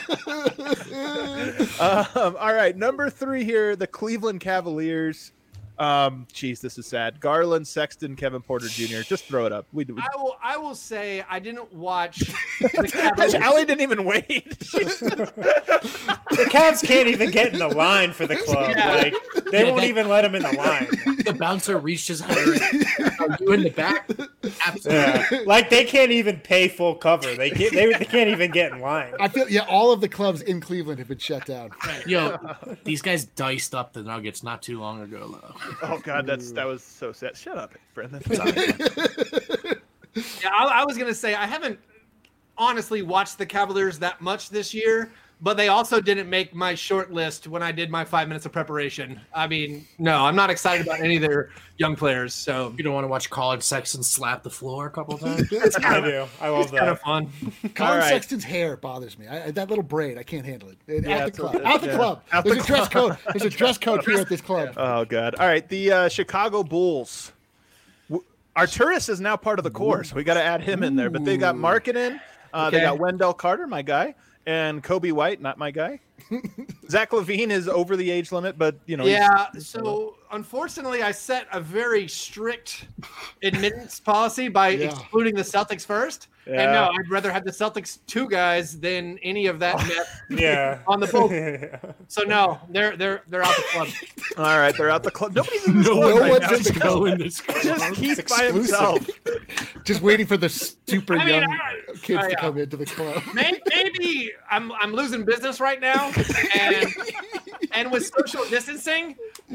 um, all right, number three here, the Cleveland Cavaliers. Um, geez, this is sad. Garland, Sexton, Kevin Porter Junior Just throw it up. We, we... I will. I will say I didn't watch. The Cavs. Allie didn't even wait. The Cavs can't even get in the line for the club. Yeah. Like they Yeah, won't that- even let him in the line. The bouncer reached his hand. Are you in the back? Absolutely. Yeah. Like they can't even pay full cover. They can't. They, they can't even get in line. I feel yeah, all of the clubs in Cleveland have been shut down. Yo, these guys diced up the Nuggets not too long ago. Though. Oh God, that's that was so sad. Shut up, Brendan. Yeah, I, I was gonna say I haven't honestly watched the Cavaliers that much this year, but they also didn't make my short list when I did my five minutes of preparation. I mean, no, I'm not excited about any of their young players. So You don't want to watch College Sexton slap the floor a couple times? I do. I love it's kind of that. fun. Colin right. Sexton's hair bothers me. I, that little braid, I can't handle it. Yeah, at it's the a- club. At the yeah. club. At There's the a dress code. There's a dress code here at this club. Oh God! All right, the uh, Chicago Bulls. W- Arturis is now part of the core, so we got to add him in there. But they got Markkanen, uh, they Okay. got Wendell Carter, my guy, and Kobe White, not my guy. Zach LaVine is over the age limit, but you know. he's- Yeah, so unfortunately, I set a very strict admittance policy by Yeah. excluding the Celtics first. And Yeah. no, I'd rather have the Celtics two guys than any of that mess Yeah. on the Bulls. So no, they're they're they're out the club. All right, they're out the club. Nobody's in this No club no right one's now. in the Go club. in this. Just Keith by exclusive. himself. Just waiting for the super I mean, young I- kids oh, to yeah. come into the club. Maybe, maybe I'm I'm losing business right now, and and with social distancing,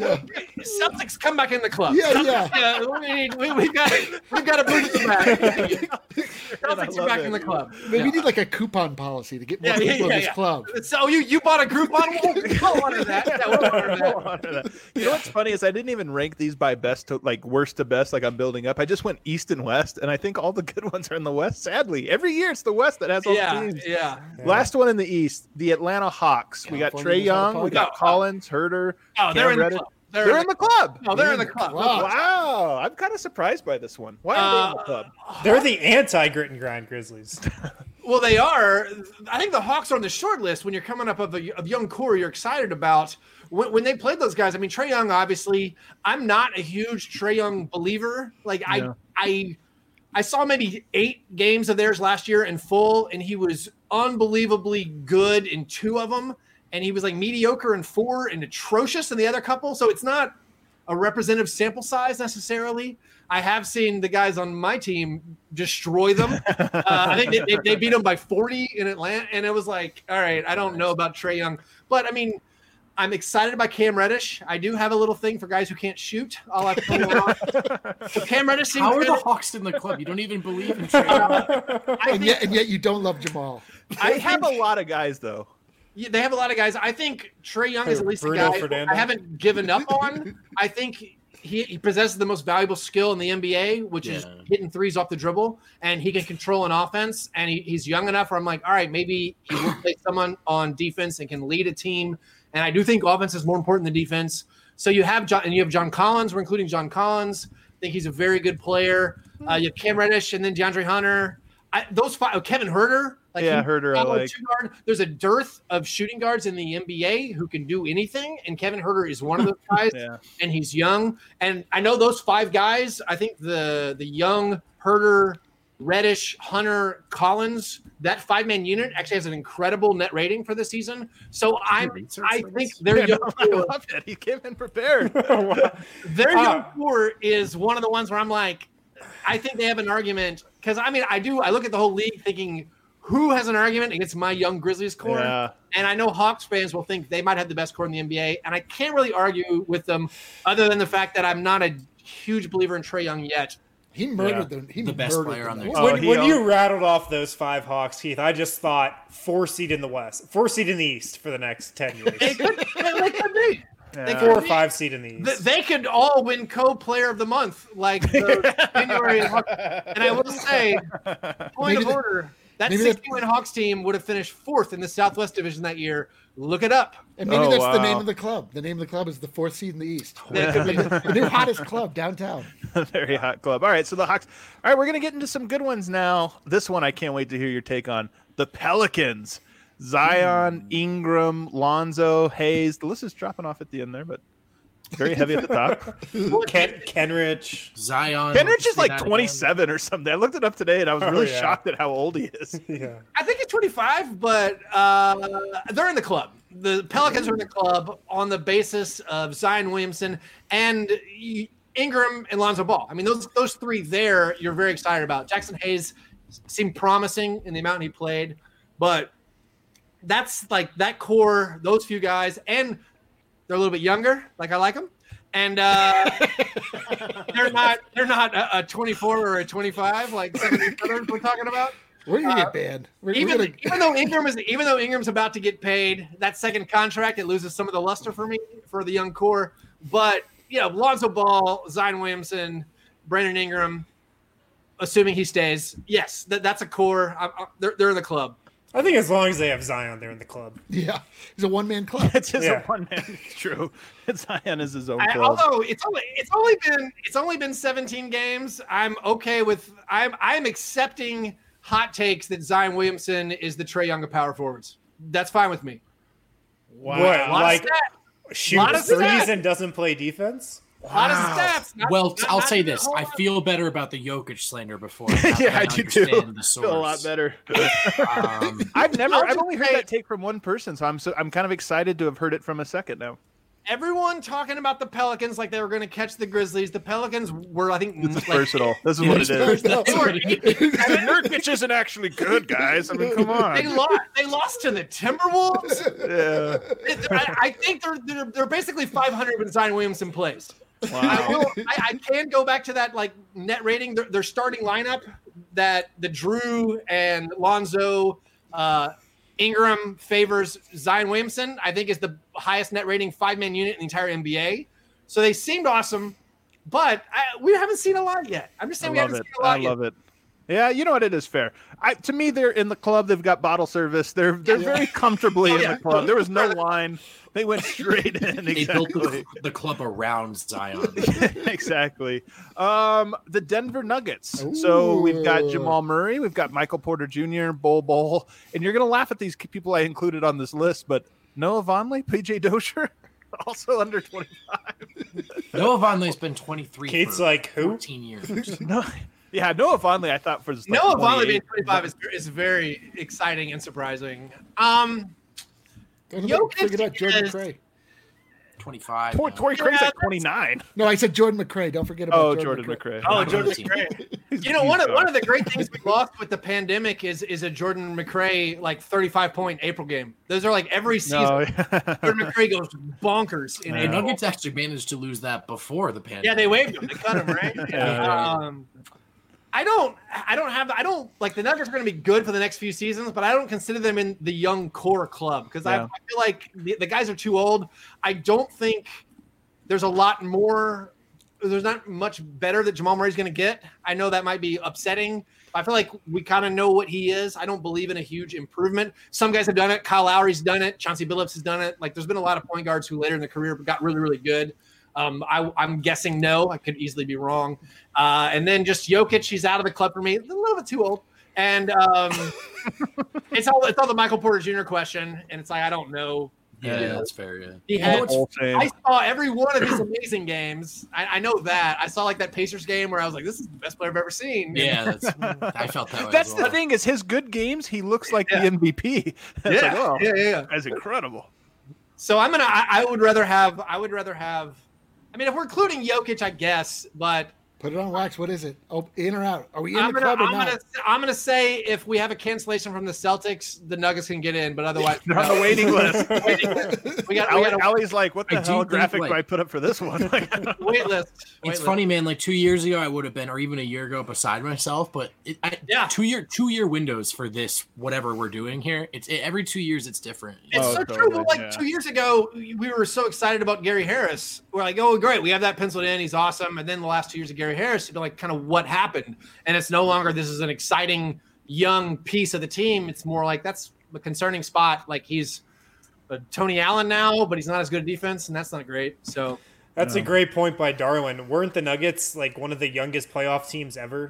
Celtics come back in the club. Yeah, Celtics, yeah. we, we, we've got we've got to move it back. Celtics are love back it. in the club. Maybe we need like a coupon policy to get more Yeah, yeah, people yeah, in this yeah. club. So you you bought a group on we'll, we'll honor that. Yeah, we'll honor that. We'll honor that. You know what's funny is I didn't even rank these by best to like worst to best, like I'm building up. I just went east and west, and I think all the good ones are in the west. Sadly, every year it's the west that has all Yeah, the teams. yeah. Last one in the east, the Atlanta Hawks. We got California Trey knows how to Young, we party. got No, Collins, Herder. Oh, they're Cam in the Reddish. club. They're in the club. No, they're in the club. Wow. Wow, I'm kind of surprised by this one. Why are they in the Uh, club? They're the anti grit and grind Grizzlies. Well, they are. I think the Hawks are on the short list when you're coming up of a of young core you're excited about. When, when they played those guys, I mean, Trey Young, obviously, I'm not a huge Trey Young believer. Like, Yeah. I, I, I saw maybe eight games of theirs last year in full, and he was unbelievably good in two of them, and he was like mediocre in four and atrocious in the other couple. So it's not a representative sample size necessarily. I have seen the guys on my team destroy them. Uh, I think they, they, they beat them by forty in Atlanta, and it was like, all right, I don't know about Trey Young, but I mean, I'm excited about Cam Reddish. I do have a little thing for guys who can't shoot. I'll have to so Cam Reddish seems How are good. the Hawks in the club? You don't even believe in Trey Young. I And think yet, and yet you don't love Jamal. I They have a lot of guys though. Yeah, they have a lot of guys. I think Trey Young is at least Bruno a guy Fernando. I haven't given up on. I think he, he possesses the most valuable skill in the N B A, which is Yeah. hitting threes off the dribble, and he can control an offense. And he, he's young enough where I'm like, all right, maybe he will play someone on defense and can lead a team. And I do think offense is more important than defense. So you have John, and you have John Collins. We're including John Collins. I think he's a very good player. Uh, you have Cam Reddish and then DeAndre Hunter. I, those five, oh, Kevin Herter. Like Yeah, he- Herter I solid like. two guard. There's a dearth of shooting guards in the N B A who can do anything, and Kevin Herter is one of those guys. Yeah. And he's young. And I know those five guys. I think the the young Herter, Reddish, Hunter, Collins, that five man unit actually has an incredible net rating for the season. So I'm research I for think this? their Yeah, young no, I core, love it. He came in prepared. their Ah. young core is one of the ones where I'm like, I think they have an argument because I mean I do I look at the whole league thinking who has an argument against my young Grizzlies core. Yeah. And I know Hawks fans will think they might have the best core in the N B A, and I can't really argue with them other than the fact that I'm not a huge believer in Trey Young yet. He murdered them. He The best murdered player them. on their Oh, when he when owned- you rattled off those five Hawks, Keith, I just thought four seed in the West, four seed in the East for the next ten years, They could, they could be. They Yeah. four or could be. five seed in the Th- East. They could all win co-player of the month, like the January. Hawks. And I will say, point Maybe of the- order, that maybe the- sixty-win Hawks team would have finished fourth in the Southwest Division that year. Look it up. And maybe Oh, that's the wow. name of the club. The name of the club is the fourth seed in the East. That could be- The new hottest club downtown. Very hot club. All right, so the Hawks. All right, we're gonna get into some good ones now. This one I can't wait to hear your take on. The Pelicans. Zion, Ingram, Lonzo, Hayes. The list is dropping off at the end there, but Very heavy at the top. Ken, Kenrich. Zion. Kenrich is like Zion. twenty-seven or something. I looked it up today, and I was really Oh, yeah. shocked at how old he is. Yeah. I think he's twenty-five, but uh, they're in the club. The Pelicans are in the club on the basis of Zion Williamson and Ingram and Lonzo Ball. I mean, those those three there, you're very excited about. Jackson Hayes seemed promising in the amount he played, but that's like that core, those few guys, and they're a little bit younger, like I like them, and uh, they're not they're not a, a twenty-four or a twenty-five like some of the others we're talking about. We're gonna Uh, get banned. We're, Even, we're gonna, even though Ingram is even though Ingram's about to get paid that second contract, it loses some of the luster for me for the young core. But you know, Lonzo Ball, Zion Williamson, Brandon Ingram, assuming he stays, yes, that, that's a core. I, I, they're they're in the club. I think as long as they have Zion, they're in the club. yeah, he's a one man club. It's just Yeah. a one man. It's true. Zion is his own I, club. although it's only it's only been it's only been seventeen games. I'm okay with I'm I'm accepting hot takes that Zion Williamson is the Trae Young of power forwards. That's fine with me. What? A lot Like of stats. shoot lot of threes stats. and doesn't play defense? A lot of stats. Not- Well, not- I'll not say even a this: whole I lot. feel better about the Jokic slander before. yeah, I do too. understand the Feel a lot source. better. Um, I've never. I'll I've just only heard say- that take from one person, so I'm so I'm kind of excited to have heard it from a second now. Everyone talking about the Pelicans like they were going to catch the Grizzlies. The Pelicans were, I think, This is like, versatile. This is what it is. They were Nurkic isn't actually good, guys. I mean, come They on. lost. They lost to the Timberwolves. Yeah. I, I think they're, they're they're basically five hundred when Zion Williamson plays. I, Wow. will, I, I can go back to that like net rating. Their, their starting lineup that the Drew and Lonzo, uh, Ingram favors Zion Williamson. I think is the highest net rating five man unit in the entire N B A. So they seemed awesome, but I, we haven't seen a lot yet. I'm just I saying we love haven't it. seen a lot I yet. love it. Yeah, you know what? It is fair. I, to me, they're in the club. They've got bottle service. They're they're Yeah. very comfortably Oh, in yeah. the club. There was no line. They went straight in. They built Exactly. the, the club around Zion. exactly. Um, the Denver Nuggets. So we've got Ooh. Jamal Murray, we've got Michael Porter Junior, Bol Bol, and you're gonna laugh at these people I included on this list, but Noah Vonleh, P J Dozier, also under twenty-five. Noah Vonleh's been twenty-three Kate's for like, who? fourteen years. No, yeah, Noah Vonleh, I thought for like Noah Vonleh being twenty-eight. twenty-five is, is very exciting and surprising. Um, Don't Jokic forget about Jordan is- McRae. twenty-five. Tor- now. Torrey Craig's Yeah, at twenty-nine. No, I said Jordan McRae. Don't forget about Oh, Jordan, Jordan McRae. oh, Not Jordan on the team. McRae. He's- You know, he's one of gone. one of the great things we lost with the pandemic is is a Jordan McRae like thirty-five point April game. Those are like every season. No, Jordan McRae goes bonkers. In The April. Nuggets actually managed to lose that before the pandemic. Yeah, they waived him. They cut him, right? Yeah. um, I don't. I don't have. I don't like the Nuggets are going to be good for the next few seasons, but I don't consider them in the young core club because I, Yeah. I feel like the, the guys are too old. I don't think there's a lot more. There's not much better that Jamal Murray's going to get. I know that might be upsetting. I feel like we kind of know what he is. I don't believe in a huge improvement. Some guys have done it. Kyle Lowry's done it. Chauncey Billups has done it. Like there's been a lot of point guards who later in the career got really, really good. Um, I, I'm guessing no. I could easily be wrong. Uh, and then just Jokic, he's out of the club for me. A little bit too old. And um, it's all it's all the Michael Porter Junior question. And it's like I don't know. Yeah, Yeah. that's fair. Yeah. He had. Whole thing. I saw every one of his amazing games. I, I know that. I saw like that Pacers game where I was like, "This is the best player I've ever seen." Yeah, that's, I felt that way. That's as the well. thing is his good games. He looks like Yeah. the M V P. It's yeah, like, oh, yeah, yeah. that's incredible. So I'm gonna. I, I would rather have. I would rather have. I mean, if we're including Jokic, I guess, but Put it on wax. What is it? Oh, in or out? Are we in I'm the gonna, club or I'm not? gonna, I'm gonna say if we have a cancellation from the Celtics, the Nuggets can get in, but otherwise, They're on the waiting list. waiting list. We got, we Ali, got a Ali's like, what the I do hell think, graphic like- do I put up for this one? Like, wait list. Wait It's list. funny, man. Like two years ago, I would have been, or even a year ago, beside myself. But it, I, Yeah. two year two year windows for this whatever we're doing here. It's it, every two years it's different. It's Oh, so totally, true. Like yeah. two years ago, we were so excited about Gary Harris. We're like, oh, great, we have that penciled in. He's awesome. And then the last two years of Gary Harris, you're like, kind of what happened? And it's no longer this is an exciting young piece of the team. It's more like that's a concerning spot. Like he's a Tony Allen now, but he's not as good at defense, and that's not great. So That's a great point by Darwin. Weren't the Nuggets like one of the youngest playoff teams ever?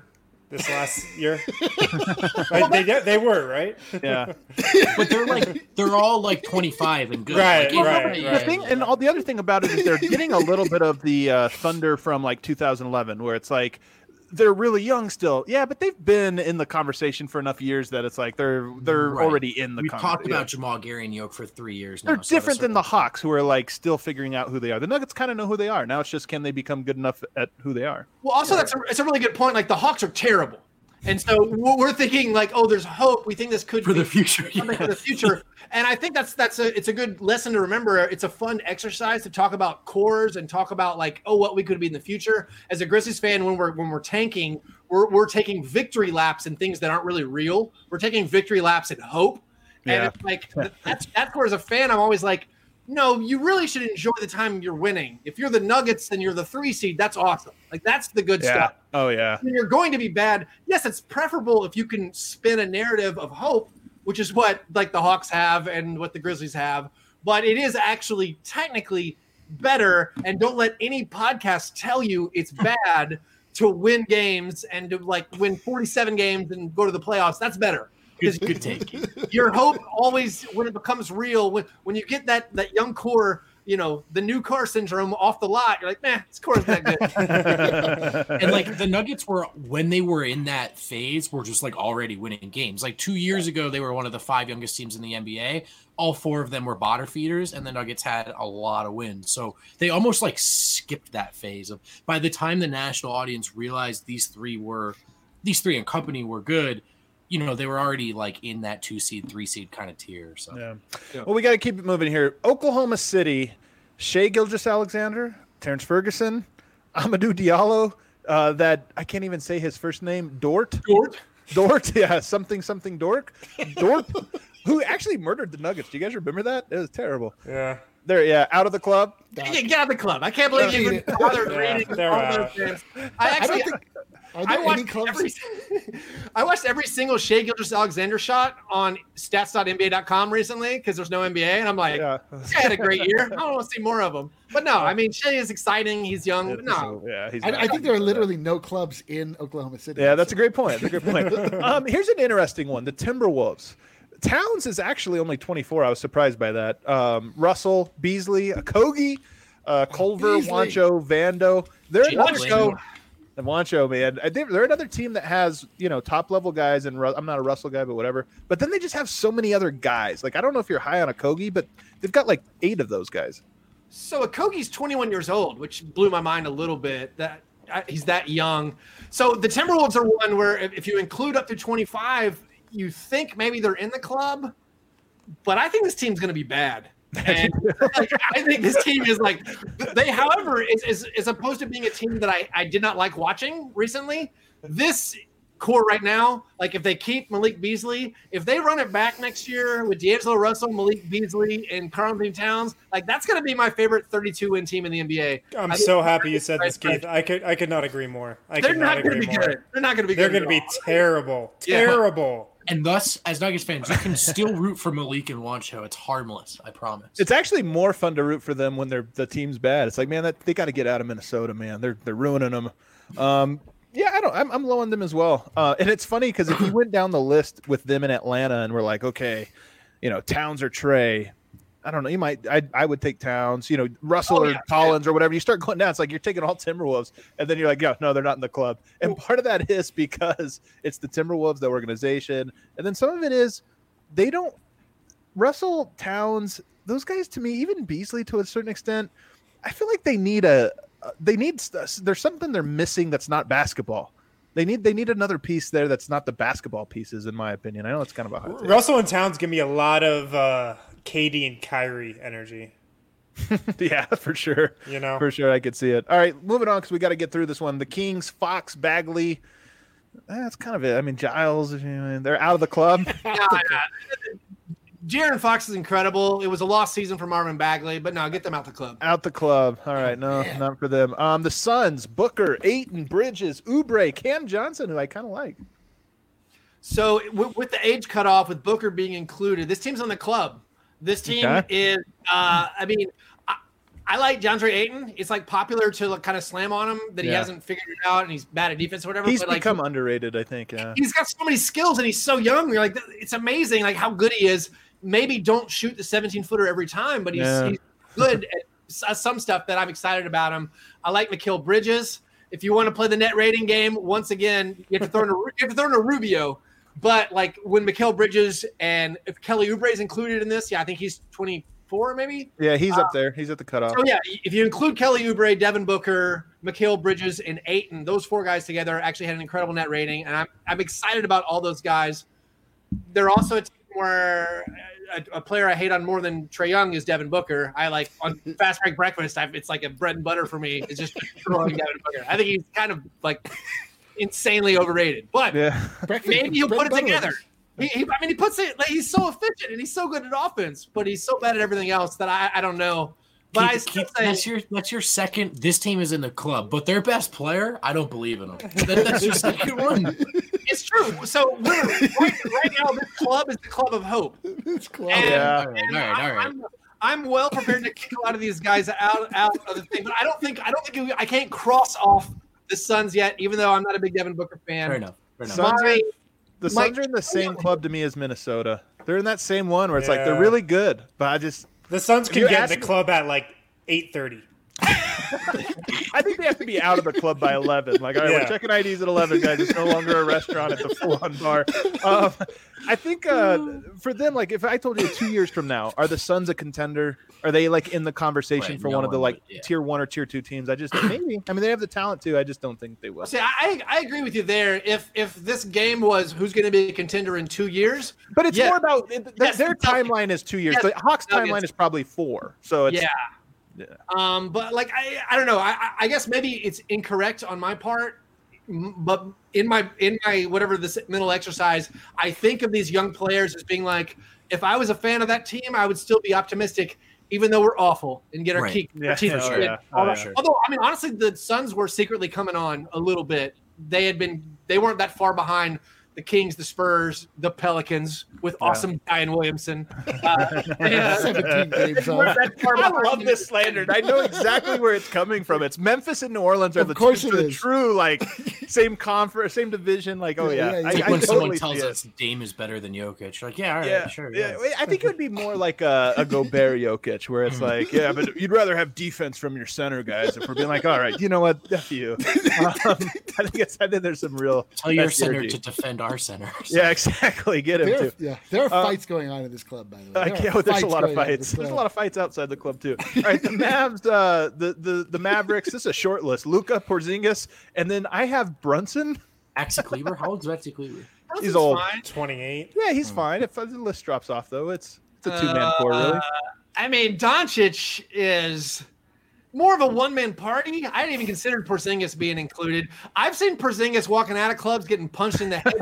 this last year. Right? They they were right. Yeah, but they're like they're all like twenty-five and good. Right, like, right, right, right. the thing, and all the other thing about it is they're getting a little bit of the uh, thunder from like two thousand eleven, where it's like they're really young still. Yeah, but they've been in the conversation for enough years that it's like they're they're Right. already in the. We've conversation. talked about Jamal Gary and Yoke for three years now. They're so different that's than the sort of- Hawks, who are like still figuring out who they are. The Nuggets kind of know who they are now. It's just can they become good enough at who they are? Well, also that's a, it's a really good point. Like the Hawks are terrible, and so we're thinking like, oh, there's hope. We think this could for be the future. something for the future. And I think that's that's a it's a good lesson to remember. It's a fun exercise to talk about cores and talk about like, oh, what we could be in the future. As a Grizzlies fan, when we're when we're tanking, we're we're taking victory laps in things that aren't really real. We're taking victory laps in hope. And Yeah. it's like that's that's where as a fan, I'm always like, no, you really should enjoy the time you're winning. If you're the Nuggets and you're the three seed, that's awesome. Like that's the good Yeah. stuff. Oh yeah. When you're going to be bad, yes, it's preferable if you can spin a narrative of hope, which is what like the Hawks have and what the Grizzlies have. But it is actually technically better. And don't let any podcast tell you it's bad to win games and to like win forty-seven games and go to the playoffs. That's better. Because Good take. your hope always, when it becomes real, when when you get that that young core, you know, the new car syndrome off the lot, you're like, man, this core is that good. And like the Nuggets were when they were in that phase, were just like already winning games. Like two years ago, they were one of the five youngest teams in the N B A. All four of them were bottom feeders, and the Nuggets had a lot of wins. So they almost like skipped that phase of by the time the national audience realized these three were these three and company were good, you know, they were already like in that two seed, three seed kind of tier. So Yeah. Yeah. Well, we got to keep it moving here. Oklahoma City, Shea Gilgeous-Alexander, Terrence Ferguson, Amadou Diallo. Uh, that I can't even say his first name. Dort. Dort. Dort. Yeah, something something Dork. Dort. Who actually murdered the Nuggets? Do you guys remember that? It was terrible. Yeah. They're yeah out of the club. Yeah, get out of the club. I can't believe you even bothered Yeah, reading they're all out. those games. I I actually don't think. Are I there any watched clubs? every I watched every single Shea Gilgeous-Alexander shot on stats dot N B A dot com recently because there's no N B A, and I'm like, Yeah. this guy had a great year. I want to see more of him. But no, I mean, Shea is exciting. He's young. But no, Yeah, he's I, not- I think there are literally no clubs in Oklahoma City. Yeah, that's a great point. That's a great point. um, here's an interesting one: the Timberwolves. Towns is actually only twenty-four. I was surprised by that. Um, Russell, Beasley, Kogi, uh, Culver, Beasley. Wancho, Vando. They're another Wancho. team. And Wancho, man, I think they're another team that has you know top level guys. And Ru- I'm not a Russell guy, but whatever. But then they just have so many other guys. Like I don't know if you're high on a Kogi, but they've got like eight of those guys. so Okogie's twenty-one years old, which blew my mind a little bit. That uh, he's that young. So the Timberwolves are one where if, if you include up to twenty-five, you think maybe they're in the club. But I think this team's going to be bad. And like, I think this team is like they, however, is, is as opposed to being a team that I, I did not like watching recently. This core right now, like if they keep Malik Beasley, if they run it back next year with D'Angelo Russell, Malik Beasley, and Karl-Anthony Towns, like that's going to be my favorite thirty-two win team in the N B A. I'm I think so they're happy you said this, right, Keith. I could I could not agree more. I They're could not not going to agree be more. good. They're not going to be They're good. going to be at all. terrible. Yeah. Terrible. and thus, as Nuggets fans, you can still root for Malik and Wancho. It's harmless, I promise. It's actually more fun to root for them when they're the team's bad. It's like, man, that, they got to get out of Minnesota, man. They're they're ruining them. Um, yeah, I don't. I'm, I'm low on them as well. Uh, and it's funny because if we went down the list with them in Atlanta and we're like, okay, you know, Towns or Trey, I don't know. You might. I I would take Towns. You know, Russell Oh, or yeah, Collins or whatever. You start going down. It's like you're taking all Timberwolves, and then you're like, yeah, no, they're not in the club. And part of that is because it's the Timberwolves, the organization, and then some of it is they don't. Russell, Towns, those guys to me, even Beasley to a certain extent, I feel like they need a. They need. There's something they're missing that's not basketball. They need. They need another piece there that's not the basketball pieces, in my opinion. I know it's kind of a hot take. Russell and Towns give me a lot of uh, Katie and Kyrie energy. Yeah, for sure. You know? For sure, I could see it. All right, moving on because we got to get through this one. The Kings, Fox, Bagley. That's kind of it. I mean, Giles, they're out of the club. Yeah, yeah. De'Aaron Fox is incredible. It was a lost season for Marvin Bagley, but no, get them out the club. Out the club. All right, no, not for them. Um, the Suns, Booker, Ayton, Bridges, Oubre, Cam Johnson, who I kind of like. So w- with the age cutoff, with Booker being included, this team's on the club. This team Okay. is, uh, I mean, I, I like DeAndre Ayton. It's like popular to like, kind of slam on him that he Yeah. hasn't figured it out and he's bad at defense or whatever. He's but like, become underrated, I think. Yeah. he's got so many skills and he's so young. You're like, it's amazing, like how good he is. Maybe don't shoot the seventeen footer every time, but he's, Yeah. he's good at s- some stuff that I'm excited about him. I like Mikal Bridges. If you want to play the net rating game, once again, you have to throw in a, you have to throw in a Rubio. But like when Mikal Bridges and if Kelly Oubre is included in this, yeah, I think he's twenty-four maybe. Yeah, he's up there. He's at the cutoff. So yeah, if you include Kelly Oubre, Devin Booker, Mikal Bridges, and Ayton, those four guys together actually had an incredible net rating, and I'm I'm excited about all those guys. They're also a team where a, a player I hate on more than Trae Young is Devin Booker. I like on Fast Break Breakfast. I've, it's like a bread and butter for me. It's just throwing Devin Booker. I think he's kind of like insanely overrated, but Yeah. Breakfast- maybe he'll bread put it and butter. together. He, he, I mean, he puts it. Like, he's so efficient and he's so good at offense, but he's so bad at everything else that I, I don't know. But I Keep- still keep- say that's your that's your second. This team is in the club, but their best player, I don't believe in them. That, that's your second one. it's true. So literally, right, right now, this club is the club of hope. It's close. And, Yeah. All right, and all right, all right. I'm, I'm well prepared to kick a lot of these guys out out of the thing, but I don't think I don't think we, I can't cross off the Suns yet, even though I'm not a big Devin Booker fan. Fair enough. Fair enough. Suns are, My- the my- Suns are in the same club to me as Minnesota. They're in that same one where it's like they're Yeah. really good, but I just The Suns can You get in asked the me- club at like eight thirty. I think they have to be out of the club by eleven. Like, all right, Yeah. we're checking I Ds at eleven, guys. It's no longer a restaurant; it's a full-on bar. Um, I think uh, for them, like, if I told you two years from now, are the Suns a contender? Are they like in the conversation Right, for no one of the one like would, yeah. tier one or tier two teams? I just maybe. I mean, they have the talent too. I just don't think they will. See, I I agree with you there. If if this game was who's going to be a contender in two years, But it's Yeah. more about their, Yes, their the Nuggets. timeline is two years. Yes, The Hawks' Nuggets. timeline is probably four. So it's yeah. Yeah. Um, but like I, I don't know. I, I- I guess maybe it's incorrect on my part, m- but in my in my whatever this mental exercise, I think of these young players as being like, if I was a fan of that team, I would still be optimistic, even though we're awful and get our, Right. key, Yeah, our teeth oh, shredded. yeah. All Oh, that. yeah. Although I mean, honestly, the Suns were secretly coming on a little bit. They had been. They weren't that far behind the Kings, the Spurs, the Pelicans with awesome Zion Williamson. Uh, they, uh, seventeen games they weren't off. that far I behind. love this slander. I know exactly where it's coming from. It's Memphis and New Orleans are Of the, course two, it the is. true like same conference, same division. Like, oh Yeah, yeah, yeah, I, yeah. Like I when totally someone see tells it. us Dame is better than Jokic, like, yeah, all right, Yeah, sure, yeah. yeah. I think it would be more like a, a Gobert Jokic, where it's like, yeah, but you'd rather have defense from your center guys. If we're being like, all right, you know what, F you. Um, I think it's I think there's some real Tell your that's center energy. to defend our center. Yeah, exactly. Get him There, too. yeah, there are Uh, fights going on in this club, by the way. I There are can't, there's a lot of going on in fights. this There's a club. lot of fights outside the club too. All right, the Mavs, uh, the the the Mavericks. This is a short list. Luka, Porzingis, and then I have Brunson. Maxi Kleber, how old is Maxi Kleber? Brunson's He's old. fine. twenty-eight. Yeah, he's fine. If the list drops off, though, it's it's a two man core, really. Uh, I mean, Doncic is more of a one man party. I hadn't even considered Porzingis being included. I've seen Porzingis walking out of clubs getting punched in the head.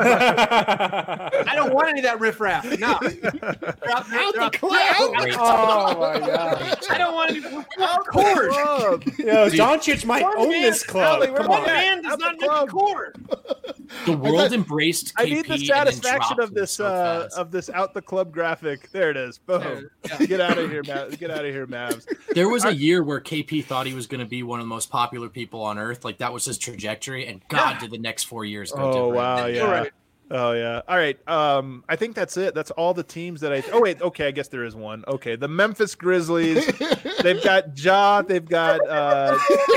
I don't want any of that riffraff. No. They're out, Out they're the club. Great. Oh my god. I don't want any out court. Club. Yo, Dude. Doncic might One own man- this club. Ellie, we're Come One on. back. man does Out the not make club. the court. The world thought- embraced I K P need the and then satisfaction dropped of him this so uh, fast. of this out the club graphic. There it is. Boom. Yeah. Get out of here, Mav. Get out of here, Mavs. There was a year where K P thought he was going to be one of the most popular people on earth. Like that was his trajectory, and God, Yeah. did the next four years go Oh different. wow, You're yeah. right. Oh yeah. All right. Um, I think that's it. That's all the teams that I. Oh wait. Okay. I guess there is one. Okay. The Memphis Grizzlies. They've got Ja. They've got uh,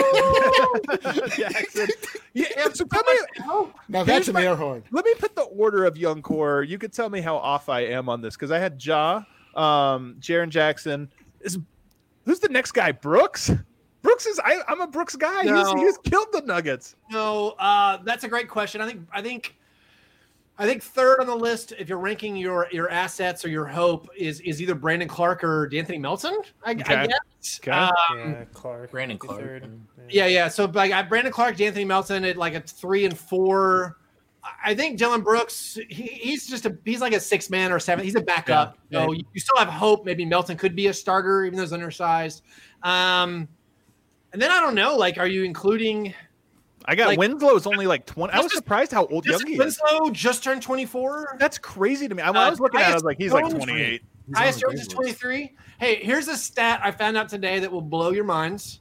Jackson. Yeah. So tell me. Now that's Here's an my- air horn. Let me put the order of young core. You could tell me how off I am on this because I had Ja, um, Jaren Jackson. Is who's the next guy? Brooks. Brooks is. I, I'm a Brooks guy. He's, No. he's killed the Nuggets. No, uh, that's a great question. I think I think I think third on the list, if you're ranking your your assets or your hope, is is either Brandon Clark or D'Anthony Melton. I, Okay. I guess. Okay. Um, Yeah, Clark. Brandon Clark. third. yeah, yeah. So like I Brandon Clark, D'Anthony Melton at like a three and four. I think Dylan Brooks, he, he's just a he's like a six man or seven. He's a backup. Yeah. So you, you still have hope. Maybe Melton could be a starter, even though he's undersized. Um, and then I don't know. Like, are you including? I got Like- Winslow's only like twenty. I was surprised how old young Just he is. Winslow just turned twenty-four. That's crazy to me. I, when I Uh, was looking at it, I was like, he's like Jones twenty-eight. Tyus Jones is twenty-three. Hey, here's a stat I found out today that will blow your minds.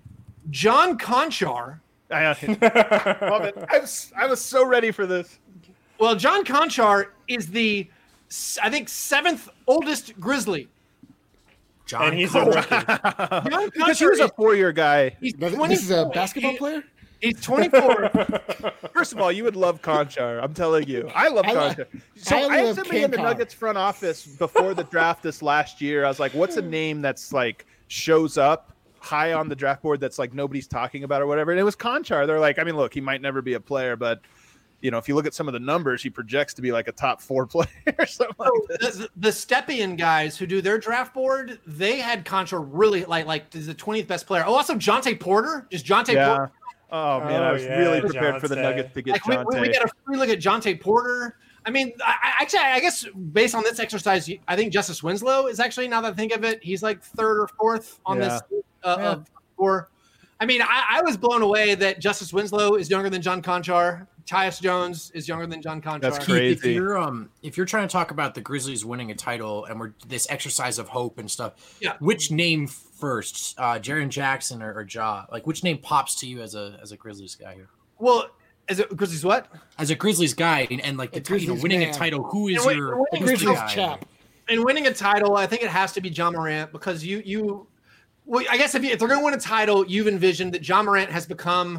John Conchar. I, love it. I was, I was so ready for this. Well, John Conchar is the, I think, seventh oldest Grizzly. John and he's a rookie. John Because he was a four-year guy. He's This is a basketball player? He's twenty-four. First of all, you would love Conchar. I'm telling you. I love I lo- Conchar. So I I had love somebody in the Conchar. Nuggets front office before the draft this last year. I was like, what's a name that's like shows up high on the draft board that's like nobody's talking about or whatever? And it was Conchar. They're like, I mean, look, he might never be a player, but you know, if you look at some of the numbers, he projects to be like a top four player or something like So this. the, the Stepien guys who do their draft board, they had Conchar really like like the twentieth best player. Oh, also Jonte Porter, just Jonte Yeah. Porter. Oh man, I Oh, was yeah, really prepared for the Jonte. Nuggets to get Like we, we, we Jonte. get a free look at Jonte Porter. I mean, I, I- actually, I guess based on this exercise, I think Justice Winslow is actually, now that I think of it, he's like third or fourth on Yeah. this uh, Yeah. of four. I mean, I, I was blown away that Justice Winslow is younger than John Conchar. Tyus Jones is younger than John Conchar. That's Keith, crazy. if you're um if you're trying to talk about the Grizzlies winning a title and we're this exercise of hope and stuff, Yeah. which name first, uh, Jaren Jackson or, or Ja? Like, which name pops to you as a as a Grizzlies guy here? Well, is it Grizzlies what? As a Grizzlies guy and, and like the A ti- you know, Grizzlies winning man. a title, who is And wait- your wait, who's the Grizzlies guy? chap. In winning a title, I think it has to be John Morant because you you well, I guess if, you, if they're going to win a title, you've envisioned that John Morant has become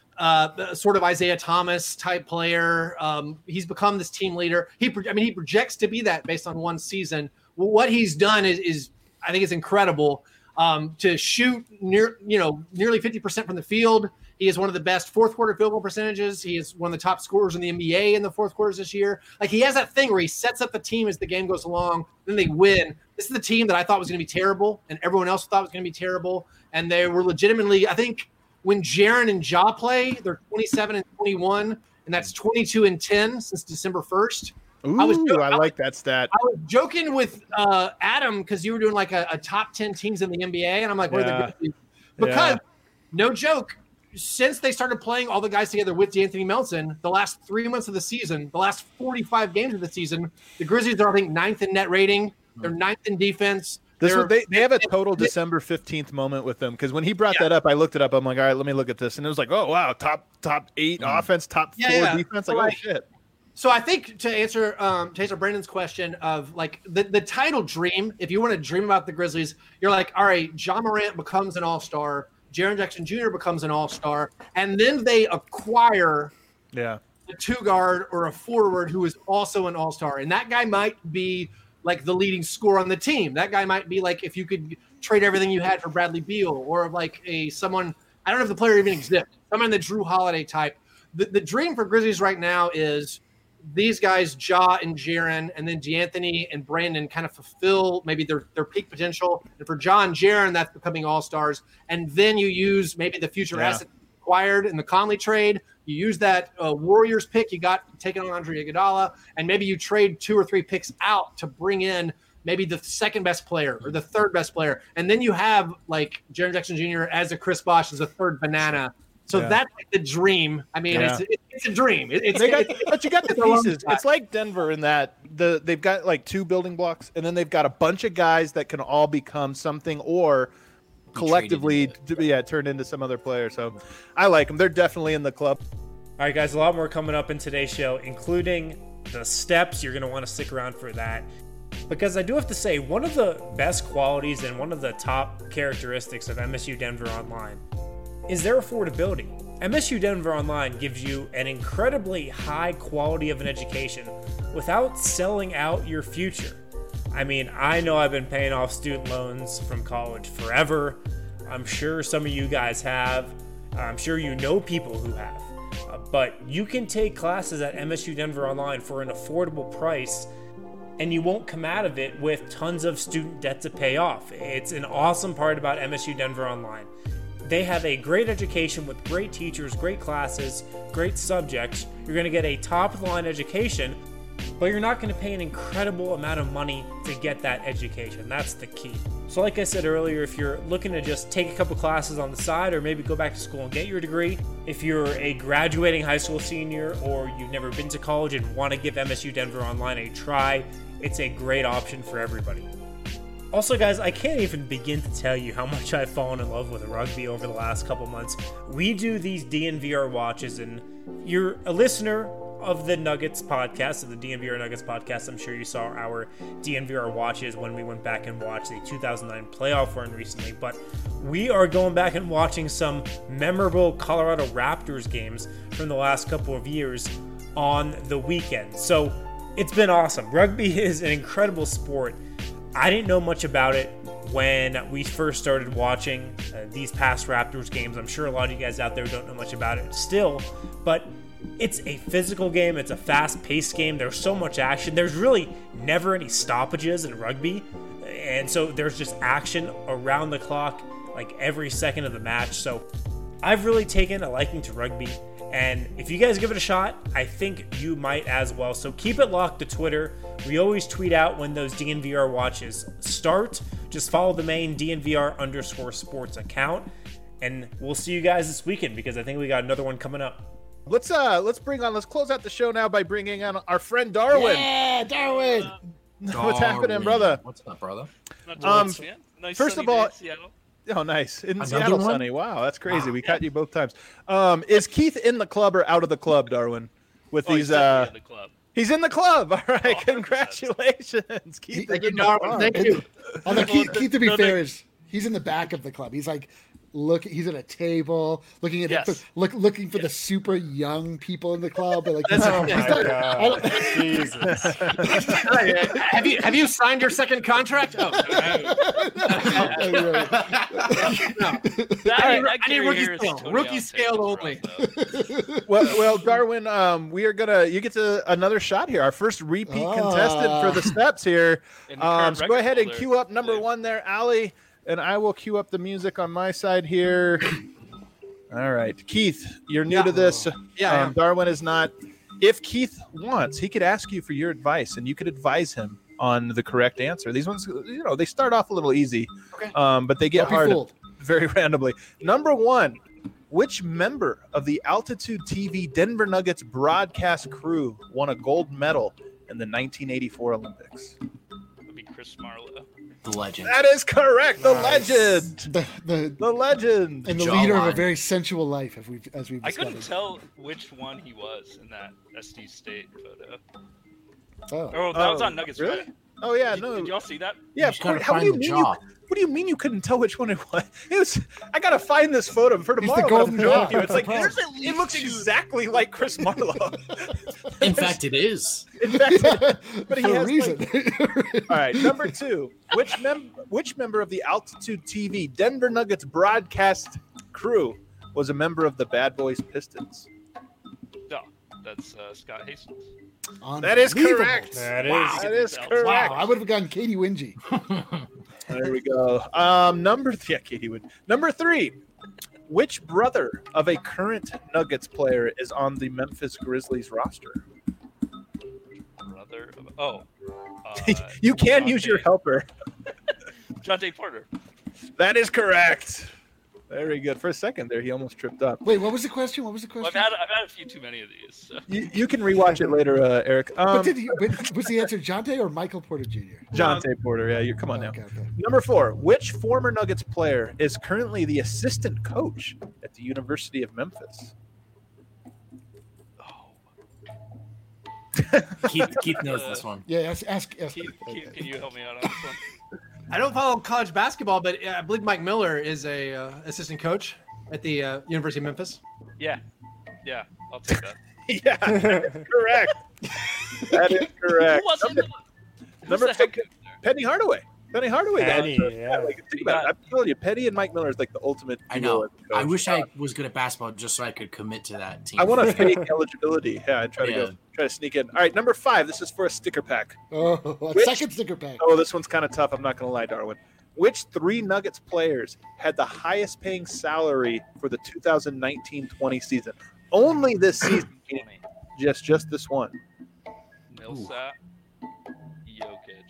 uh, sort of Isaiah Thomas type player. Um, he's become this team leader. He, pro- I mean, he projects to be that based on one season. Well, what he's done is, is I think, is incredible. Um, to shoot near, you know, nearly fifty percent from the field. He is one of the best fourth quarter field goal percentages. He is one of the top scorers in the N B A in the fourth quarters this year. Like he has that thing where he sets up the team as the game goes along, then they win. This is the team that I thought was going to be terrible, and everyone else thought was going to be terrible, and they were legitimately. I think when Jaren and Ja play, they're twenty-seven and twenty-one, and that's twenty-two and ten since December first. Ooh, I was- I like that stat. I was joking with uh, Adam because you were doing like a, a top ten teams in the N B A, and I'm like, where are Yeah. the Grizzlies? Because Yeah. no joke, since they started playing all the guys together with D'Anthony Melton, the last three months of the season, the last forty-five games of the season, the Grizzlies are I think ninth in net rating. They're ninth in defense. This They're- was, they, they have a total December fifteenth moment with them because when he brought Yeah. that up, I looked it up. I'm like, all right, let me look at this. And it was like, oh, wow, top top eight offense, top Yeah, four yeah. defense. Like, Like- oh, shit. So I think to answer um, to answer Brandon's question of like the, the title dream, if you want to dream about the Grizzlies, you're like, all right, John Morant becomes an all-star, Jaren Jackson Junior becomes an all-star, and then they acquire Yeah. a two guard or a forward who is also an all-star. And that guy might be like the leading scorer on the team. That guy might be like if you could trade everything you had for Bradley Beal or like a someone, I don't know if the player even exists, someone the Drew Holiday type. The, the dream for Grizzlies right now is these guys, Ja and Jaren, and then D'Anthony and Brandon kind of fulfill maybe their, their peak potential. And for Ja and Jaren, that's becoming all-stars. And then you use maybe the future Yeah. asset acquired in the Conley trade. You use that uh, Warriors pick you got taken on Andre Iguodala, and maybe you trade two or three picks out to bring in maybe the second best player or the third best player. And then you have like Jaren Jackson Junior as a Chris Bosh as a third banana. So Yeah. that's like the dream. I mean, Yeah. it's, it's a dream. It, it's, They got, it's- but you got the it's a long pieces. shot. It's like Denver in that the they've got like two building blocks, and then they've got a bunch of guys that can all become something or collectively, traded d- yeah, turn into some other player. So I like them. They're definitely in the club. All right, guys, a lot more coming up in today's show, including the steps. You're going to want to stick around for that. Because I do have to say, one of the best qualities and one of the top characteristics of M S U Denver Online is their affordability. M S U Denver Online gives you an incredibly high quality of an education without selling out your future. I mean, I know I've been paying off student loans from college forever. I'm sure some of you guys have. I'm sure you know people who have. Uh, but you can take classes at M S U Denver Online for an affordable price, and you won't come out of it with tons of student debt to pay off. It's an awesome part about M S U Denver Online. They have a great education with great teachers, great classes, great subjects. You're going to get a top-of-the-line education, but you're not going to pay an incredible amount of money to get that education. That's the key. So like I said earlier, if you're looking to just take a couple classes on the side or maybe go back to school and get your degree, if you're a graduating high school senior or you've never been to college and want to give M S U Denver Online a try, it's a great option for everybody. Also, guys, I can't even begin to tell you how much I've fallen in love with rugby over the last couple months. We do these D N V R watches, and you're a listener of the Nuggets podcast, of the D N V R Nuggets podcast. I'm sure you saw our D N V R watches when we went back and watched the two thousand nine playoff run recently, but we are going back and watching some memorable Colorado Raptors games from the last couple of years on the weekend. So it's been awesome. Rugby is an incredible sport. I didn't know much about it when we first started watching uh, these past Raptors games. I'm sure a lot of you guys out there don't know much about it still, but it's a physical game. It's a fast-paced game. There's so much action. There's really never any stoppages in rugby, and so there's just action around the clock, like every second of the match. So I've really taken a liking to rugby, and if you guys give it a shot, I think you might as well. So keep it locked to Twitter. We always tweet out when those D N V R watches start. Just follow the main D N V R underscore sports account, and we'll see you guys this weekend because I think we got another one coming up. Let's uh let's bring on let's close out the show now by bringing on our friend Darwin. Yeah, Darwin. What's happening, brother? What's up, brother? Um, Nice first sunny of all- day in Seattle. Oh, nice. In Another Seattle, one? sunny. Wow, that's crazy. We caught you both times. Um, is Keith in the club or out of the club, Darwin? With Oh, he's these, uh, definitely in the club. he's in the club. All right, one hundred percent. congratulations, Keith. Thank is you, in the Darwin. club. Thank you. Although Keith, Well, Keith, to be no, fair, no. is he's in the back of the club. He's like, look, he's at a table looking at Yes. the, look, looking for the super young people in the club. And like, That's he's, right. he's Oh not- my I don't- God. Jesus. have you have you signed your second contract? Oh, no. Right. That, I need, that I need Gary rookie Harris scale. Tony Rookie Allen scale tape was only. rough, though. well, well, Darwin, um, we are gonna. You get to another shot here. Our first repeat Ah. contestant for the steps here. And the Um, current so go record ahead and holder, cue up number Liv. one there, Allie, and I will cue up the music on my side here. All right, Keith, you're new Yeah. to this. Yeah, I um, am. Darwin is not. If Keith wants, he could ask you for your advice, and you could advise him on the correct answer. These ones, you know, they start off a little easy, Okay. um, but they get Don't be hard fooled. very randomly. Number one, which member of the Altitude T V Denver Nuggets broadcast crew won a gold medal in the nineteen eighty-four Olympics? That'd be Chris Marlowe. The legend. That is correct. The Nice. legend. The, the, The legend. and the Jawline. leader of a very sensual life, as we've, as we've I discovered. couldn't tell which one he was in that S D State photo. Oh. Oh, that was Oh, on Nuggets, really? right? Oh yeah, Did, no. did y'all see that? Yeah, You of just gotta course. How do find you the mean jaw. you? What do you mean you couldn't tell which one it was? It was. I gotta find this photo for the tomorrow. but golden I'm showing jaw. you. It's like That's there's the a, it looks exactly like Chris Marlowe. In fact, it is. In fact, but he For a has reason. like, all right, number two. Which mem- which member of the Altitude T V Denver Nuggets broadcast crew was a member of the Bad Boys Pistons? No, that's uh, Scott Hastings. That is Unbelievable. correct. That is. Wow, that is Wow, correct. Wow, I would have gotten Katie Wingy. There we go. Um, number th- yeah, Katie would. Number three. Which brother of a current Nuggets player is on the Memphis Grizzlies roster? Brother of, oh. Uh, You can use Jonte- your helper. Jonte Porter. That is correct. Very good. For a second there, he almost tripped up. Wait, what was the question? What was the Well, I've question? had I've had a few too many of these. So. You, you can rewatch it later, uh, Eric. but Um, did he, but was the answer Jonte or Michael Porter Junior? Jonte Porter. Yeah, you come on now. Okay, okay. Number four. Which former Nuggets player is currently the assistant coach at the University of Memphis? Keith, Keith knows this one. Yeah, ask, ask, ask Keith, Keith, can you help me out on this one? I don't follow college basketball, but uh, I believe Mike Miller is a uh, assistant coach at the uh, University of Memphis. Yeah, yeah, I'll take that. Yeah, correct. That is correct. Who was Number, it? Who's number the head two, coach there? Penny Hardaway. Penny Hardaway. Penny, that- yeah. like, think about it. I'm telling you, Penny and Mike Miller is like the ultimate. I duo know. as a I coach. wish I was good at basketball just so I could commit to that team. I want a fake eligibility. Yeah, I try to Yeah. go, try to sneak in. All right, number five. This is for a sticker pack. Oh, a Which- second sticker pack. Oh, this one's kind of tough. I'm not going to lie, Darwin. Which three Nuggets players had the highest paying salary for the two thousand nineteen twenty season? Only this season. twenty. just, just this one. Millsap, Jokic,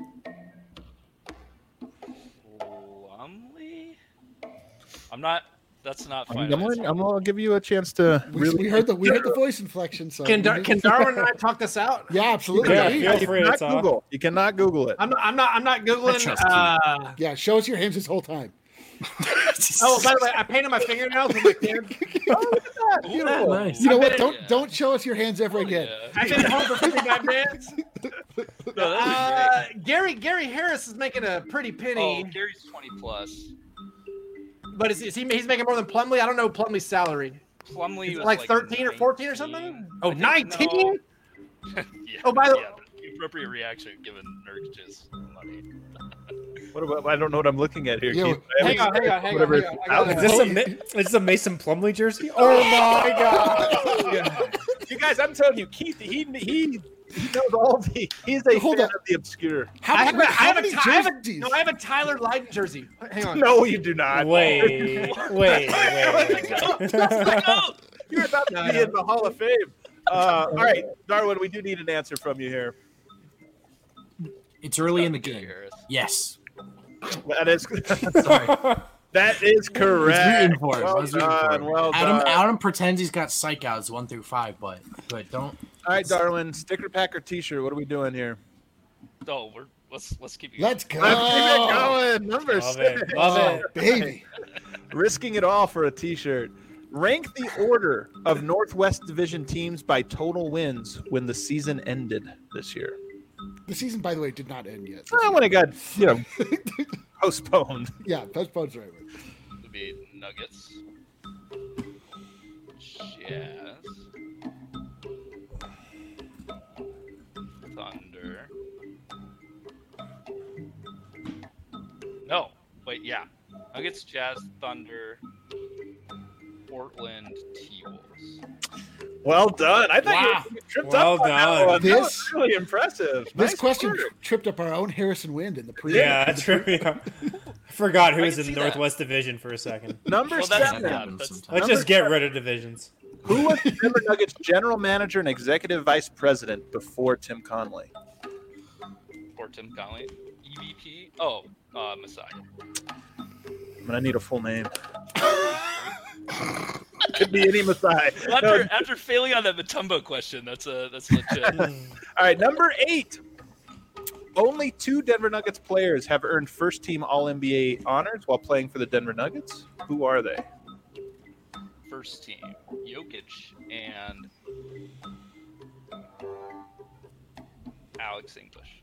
Plumlee. I'm not. That's not I'm, fine. I'm, gonna, I'm gonna give you a chance to We, really. we heard the we heard the voice inflection. So Can we Dar- need- can Darwin and I talk this out? Yeah, absolutely. Yeah, Yeah, feel You free, cannot it's off. Google. You cannot Google it. I'm not. I'm not. I'm not I googling. trust Keith. Uh, yeah, show us your hands this whole time. oh, by the way, I painted my fingernails with my kid. Yeah, nice. You know I what? bet it- Don't yeah. don't show us your hands ever again. Yeah. I've been home for fifty-five minutes. No, that'd Uh, be Gary Gary Harris is making a pretty great. penny, Oh, Gary's twenty plus. but is, is he? He's making more than Plumlee. I don't know Plumlee's salary. Plumlee Is it was like thirteen or fourteen or something? Oh, nineteen? yeah, Oh, by the- yeah, the appropriate reaction given Nurkic's money. What about, I don't know what I'm looking at here. Yeah, Keith. I Hang on, haven't- hang on, hang on. whatever Hang on. it's I out gotta- Is this a Ma- is this a Mason Plumlee jersey? Oh my god! You guys, I'm telling you, Keith, he he he knows all the. He's a Hold fan on. of the obscure. How, I have, wait, a, I, how have a, many I, have a, jerseys? no, I have a Tyler Lydon jersey. Hang on. No, you do not. Wait, wait, wait, wait. You're about to No, be no. in the Hall of Fame. Uh, all right, Darwin, we do need an answer from you here. It's early in the Gary game. Harris. Yes. That is Sorry. that is correct. rooting for him. I Well was rooting for done. him. Well Adam done. Adam pretends he's got psychouts one through five, but but don't. All right, Darwin, sticker pack or T-shirt? What are we doing here? Oh, we're let's let's keep it. Let's go. Let's keep it going. Number Love six. it, love Oh, it. baby. Risking it all for a T-shirt. Rank the order of Northwest Division teams by total wins when the season ended this year. The season, by the way, did not end yet. Well, when it got, you know, postponed. Yeah, postpone's the right word. Would be Nuggets, Jazz, Thunder. No, wait, yeah, Nuggets, Jazz, Thunder, Portland, T-Wolves. Well done. I thought Wow. you tripped Well up on that done. one. That This- was really impressive. This Nice question work. tripped up our own Harrison Wind in the pre. Yeah, trivia. I forgot who I was can in see the that. Northwest Division for a second. Number Well, that's- seven. That yeah, happens that's- sometimes. Let's Number just get seven. rid of divisions. Who was the Denver Nuggets general manager and executive vice president before Tim Conley? Or Tim Conley, E V P. Oh, uh, Messiah. I'm gonna need a full name. Could be any Masai. After after failing on that Matumbo question, that's a that's legit. All right, number eight. Only two Denver Nuggets players have earned first-team All N B A honors while playing for the Denver Nuggets. Who are they? First team, Jokic and Alex English.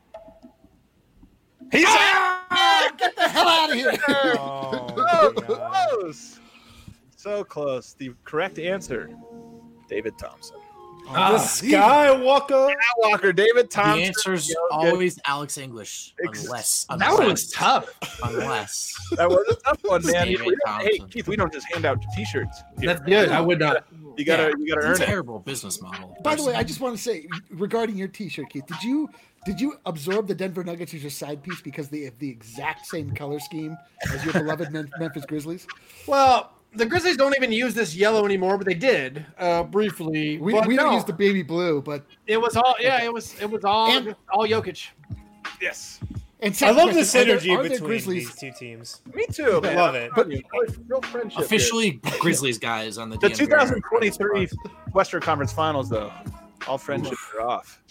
He's Get the hell out of here. Oh, so my God. close. So close. The correct answer, David Thompson. The Skywalker. Walker, David The Thompson. answer's Jokic. always Alex English, Ex- unless That unless, one was tough. Unless That was a tough one, man. David We don't- hey, Thompson. Keith, we don't just hand out T-shirts. here. That's good. I would not. You gotta, Yeah, you gotta it's earn a it. terrible business model. By the way, I personally. just want to say regarding your T-shirt, Keith, did you did you absorb the Denver Nuggets as your side piece because they have the exact same color scheme as your beloved Mem- Memphis Grizzlies? Well, the Grizzlies don't even use this yellow anymore, but they did uh, briefly. We, But we don't no, use the baby blue, but It was all. Yeah, it was. It was all. And- all Jokic. Yes. and I second love the question, are there- synergy are there between Grizzlies? these two teams. Me too, man. Love it. But real friendship. here. officially Grizzlies guys on the The D M V twenty twenty-three Western Conference Finals, though, all friendships are off.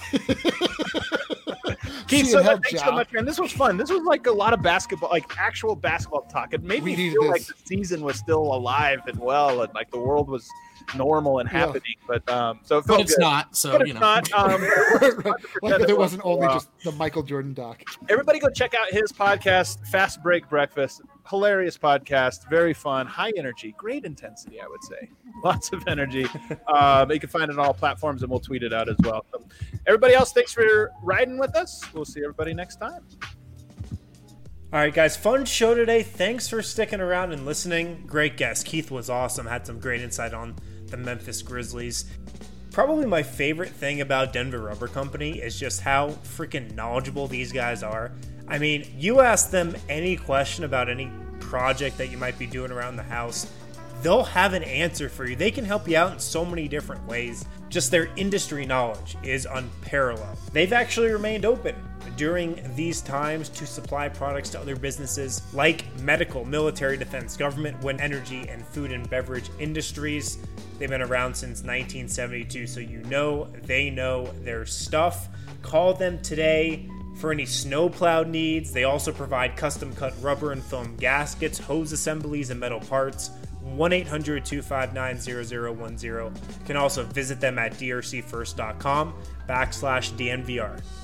Keith, See so you in thanks hell, so John. much, man. This was fun. This was like a lot of basketball, like actual basketball talk. It made We me needed feel like this. the season was still alive and well, and like the world was normal and Yeah. happening. But um, so it felt But it's good. not, so But you it's know. not. Um, like if it wasn't only Wow. just the Michael Jordan doc. Everybody go check out his podcast, Fast Break Breakfast. Hilarious podcast, very fun, high energy, great intensity, I would say. Lots of energy. Um, you can find it on all platforms, and we'll tweet it out as well. So, everybody else, thanks for riding with us. We'll see everybody next time. All right, guys, fun show today. Thanks for sticking around and listening. Great guest. Keith was awesome. Had some great insight on the Memphis Grizzlies. Probably my favorite thing about Denver Rubber Company is just how freaking knowledgeable these guys are. I mean, you ask them any question about any project that you might be doing around the house, they'll have an answer for you. They can help you out in so many different ways. Just their industry knowledge is unparalleled. They've actually remained open during these times to supply products to other businesses like medical, military, defense, government, wind energy, and food and beverage industries. They've been around since nineteen seventy-two, so you know they know their stuff. Call them today for any snowplow needs. They also provide custom cut rubber and foam gaskets, hose assemblies, and metal parts. one eight hundred, two five nine, zero zero one zero. You can also visit them at d r c first dot com backslash D N V R.